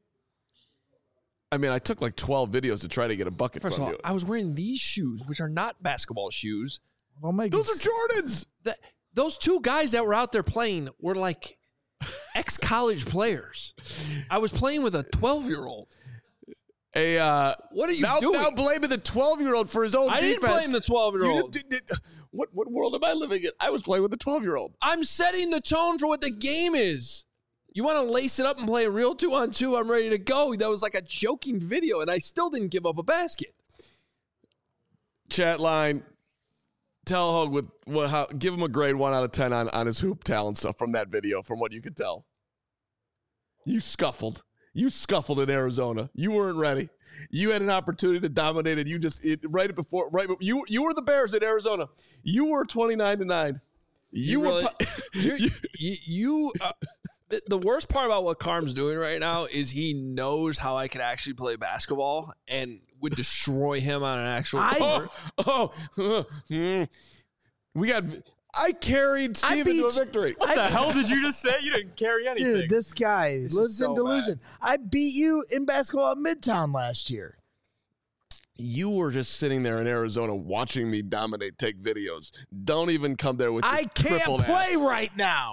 I mean, I took like twelve videos to try to get a bucket First of from all, you. I was wearing these shoes, which are not basketball shoes. Don't make Those it, are Jordans. That those two guys that were out there playing were like ex-college players. I was playing with a twelve-year-old. A uh, What are you now, doing? now blaming the twelve-year-old for his own I didn't defense. blame the twelve-year-old. You just did- did- what what world am I living in? I was playing with the twelve-year-old. I'm setting the tone for what the game is. You want to lace it up and play a real two on two? I'm ready to go. That was like a joking video, and I still didn't give up a basket. Chat line. Tell Hogue with what? How? Give him a grade one out of ten on on his hoop talent stuff from that video. From what you could tell, you scuffled. You scuffled in Arizona. You weren't ready. You had an opportunity to dominate, and you just it, right before right. You you were the Bears in Arizona. You were twenty-nine to nine. You, really- were. You're- you, you, you uh, the- the worst part about what Carm's doing right now is he knows how I could actually play basketball and would destroy him on an actual I- court. oh, oh, hmm. we got. I carried I Steve into a beat- victory. What the hell did you just say? You didn't carry anything. dude, this guy This is lives so in delusion. I beat you in basketball at Midtown last year. You were just sitting there in Arizona watching me dominate, take videos. Don't even come there with I your can't crippled play ass. right now.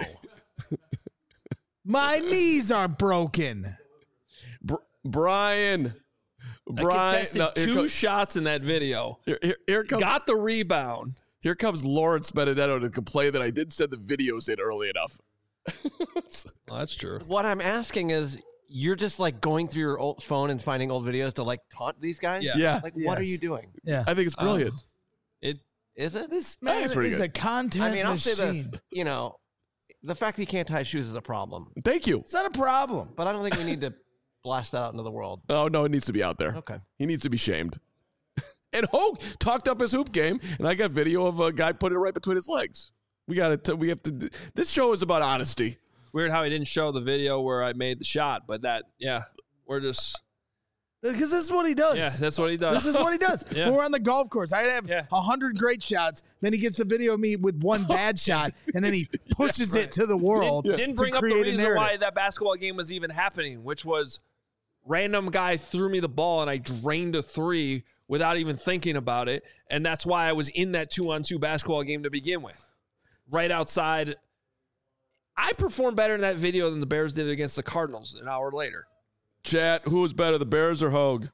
My knees are broken. Br- Brian. I Brian. contested no, here, two co- shots in that video. here, here, here comes, Got the rebound. here comes Lawrence Benedetto to complain that I didn't send the videos in early enough. Well, that's true. What I'm asking is, you're just like going through your old phone and finding old videos to like taunt these guys? Yeah. Yeah, Like, what are Yes. you doing? Yeah. I think it's brilliant. It Is it? This I think man it's pretty is good. a content I mean, I'll machine. say this. You know, the fact that he can't tie his shoes is a problem, Thank you. It's not a problem. but I don't think we need to blast that out into the world. Oh, no, it needs to be out there. Okay. He needs to be shamed. And Hogue talked up his hoop game, and I got video of a guy putting it right between his legs. We got to. We have to. This show is about honesty. Weird how he didn't show the video where I made the shot, but that, yeah, we're just. Because this is what he does. Yeah, that's what he does. This is what he does. Yeah. When we're on the golf course, I have a Yeah. hundred great shots. Then he gets the video of me with one bad shot, and then he pushes it to the world. Didn't, didn't to bring up the create a reason narrative. why that basketball game was even happening, which was random guy threw me the ball and I drained a three without even thinking about it. And that's why I was in that two-on-two basketball game to begin with. Right outside. I performed better in that video than the Bears did against the Cardinals an hour later. Chat, who was better, the Bears or Hogue?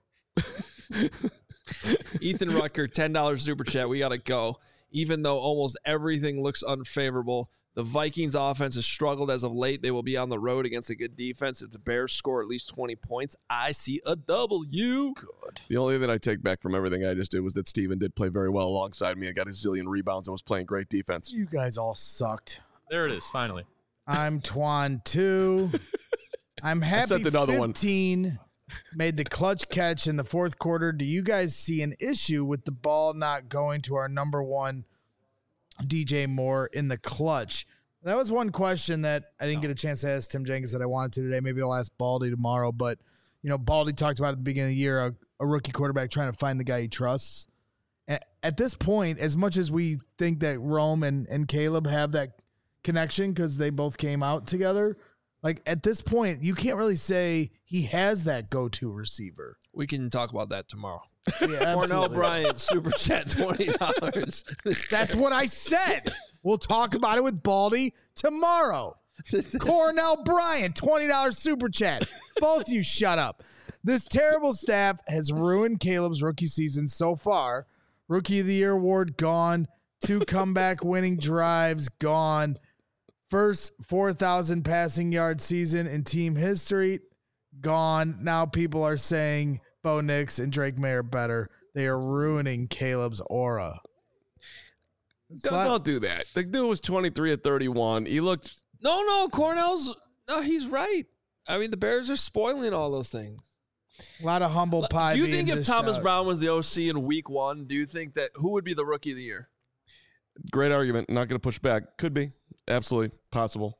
Ethan Rucker, ten dollars super chat. We got to go. Even though almost everything looks unfavorable, the Vikings offense has struggled as of late. They will be on the road against a good defense. If the Bears score at least twenty points, I see a W. Good. The only thing that I take back from everything I just did was that Steven did play very well alongside me and got a zillion rebounds and was playing great defense. You guys all sucked. There it is, finally. I'm Twan two. I'm happy sent another one. fifteen made the clutch catch in the fourth quarter. Do you guys see an issue with the ball not going to our number one D J Moore in the clutch? That was one question that I didn't get a chance to ask Tim Jenkins that I wanted to today. Maybe I'll ask Baldy tomorrow. But, you know, Baldy talked about at the beginning of the year a, a rookie quarterback trying to find the guy he trusts. And at this point, as much as we think that Rome and, and Caleb have that connection because they both came out together, like at this point, you can't really say he has that go-to receiver. We can talk about that tomorrow. Yeah, Cornell absolutely. Bryant, super chat, twenty dollars. That's what I said. We'll talk about it with Baldy tomorrow. Cornell Bryant, twenty dollars super chat. Both you shut up. This terrible staff has ruined Caleb's rookie season so far. Rookie of the Year award gone. Two comeback winning drives gone. First four thousand passing yard season in team history gone. Now people are saying Bo Nix and Drake May are better. They are ruining Caleb's aura. Don't, don't do that. The dude was twenty-three at thirty-one. He looked. No, no, Cornell's. No, he's right. I mean, the Bears are spoiling all those things. A lot of humble pie. Do you being think if dished Thomas out. Brown was the O C in week one, do you think that who would be the rookie of the year? Great argument. Not going to push back. Could be. Absolutely. Possible.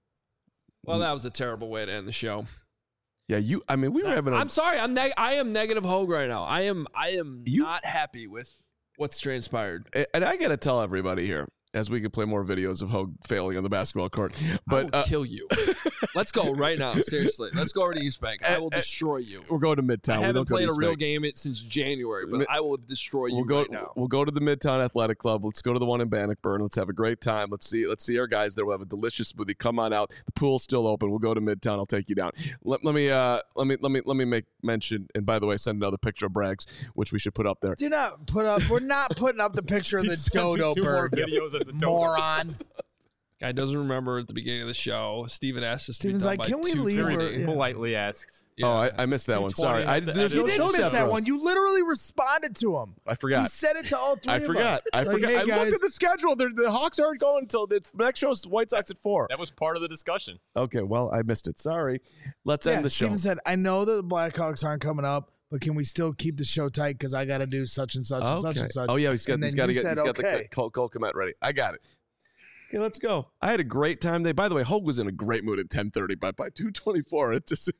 Well, that was a terrible way to end the show. Yeah, you. I mean, we were having. A, I'm sorry. I'm neg- I am negative Hogue right now. I am. I am You- not happy with what's transpired. and I got to tell everybody here, as we could play more videos of Hogue failing on the basketball court. But I will uh, kill you. Let's go right now. Seriously, let's go over to East Bank. I will destroy you. we're going to Midtown. I We haven't don't go to played a East real Bank. game it since January, but Mi- I will destroy you We'll go. right now. We'll go to the Midtown Athletic Club. Let's go to the one in Bannockburn. Let's have a great time. Let's see. Let's see our guys there. We'll have a delicious smoothie. Come on out. The pool's still open. We'll go to Midtown. I'll take you down. Let, let me. Uh. Let me. Let me. Let me make mention. And by the way, send another picture of Braggs, which we should put up there. Do not put up. We're not putting up the picture of He the sent me dodo two more bird. videos of the dodo. Moron. Guy doesn't remember at the beginning of the show. Steven asked us Steven's to be like, done "Can by we two leave thirty. or- yeah. Politely asked. Yeah. Oh, I, I missed that one. two twenty Sorry. I, at the there's end no You of show didn't miss set that for us. one. You literally responded to him. I You forgot. said it to all three I of forgot. us. I Like, forgot. hey, I guys, looked at the schedule. They're, the Hawks aren't going until the next show's White Sox at four. That was part of the discussion. Okay, well, I missed it. Sorry. Let's yeah, end the show. Steven said, I know that the Blackhawks aren't coming up, but can we still keep the show tight because I got to do such and such and such Okay. and such. Oh yeah, he's got. And He's then got to you get. He's said, got okay. the Cole, Cole Komet ready. I got it. Okay, let's go. I had a great time today. By the way, Hogue was in a great mood at ten thirty, but by two twenty-four, it just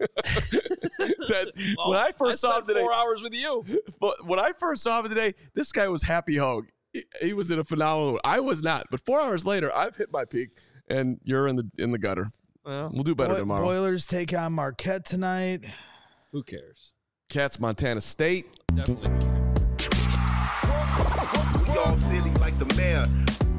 that, Well, when I I first saw him spent today. four hours with you. But when I first saw him today, this guy was happy Hogue. He, he was in a phenomenal mood. I was not. But four hours later, I've hit my peak, and you're in the in the gutter. Well, We'll do better Boy- tomorrow. Boilers take on Marquette tonight. who cares? Cats, Montana State. Definitely. We all silly like the mayor.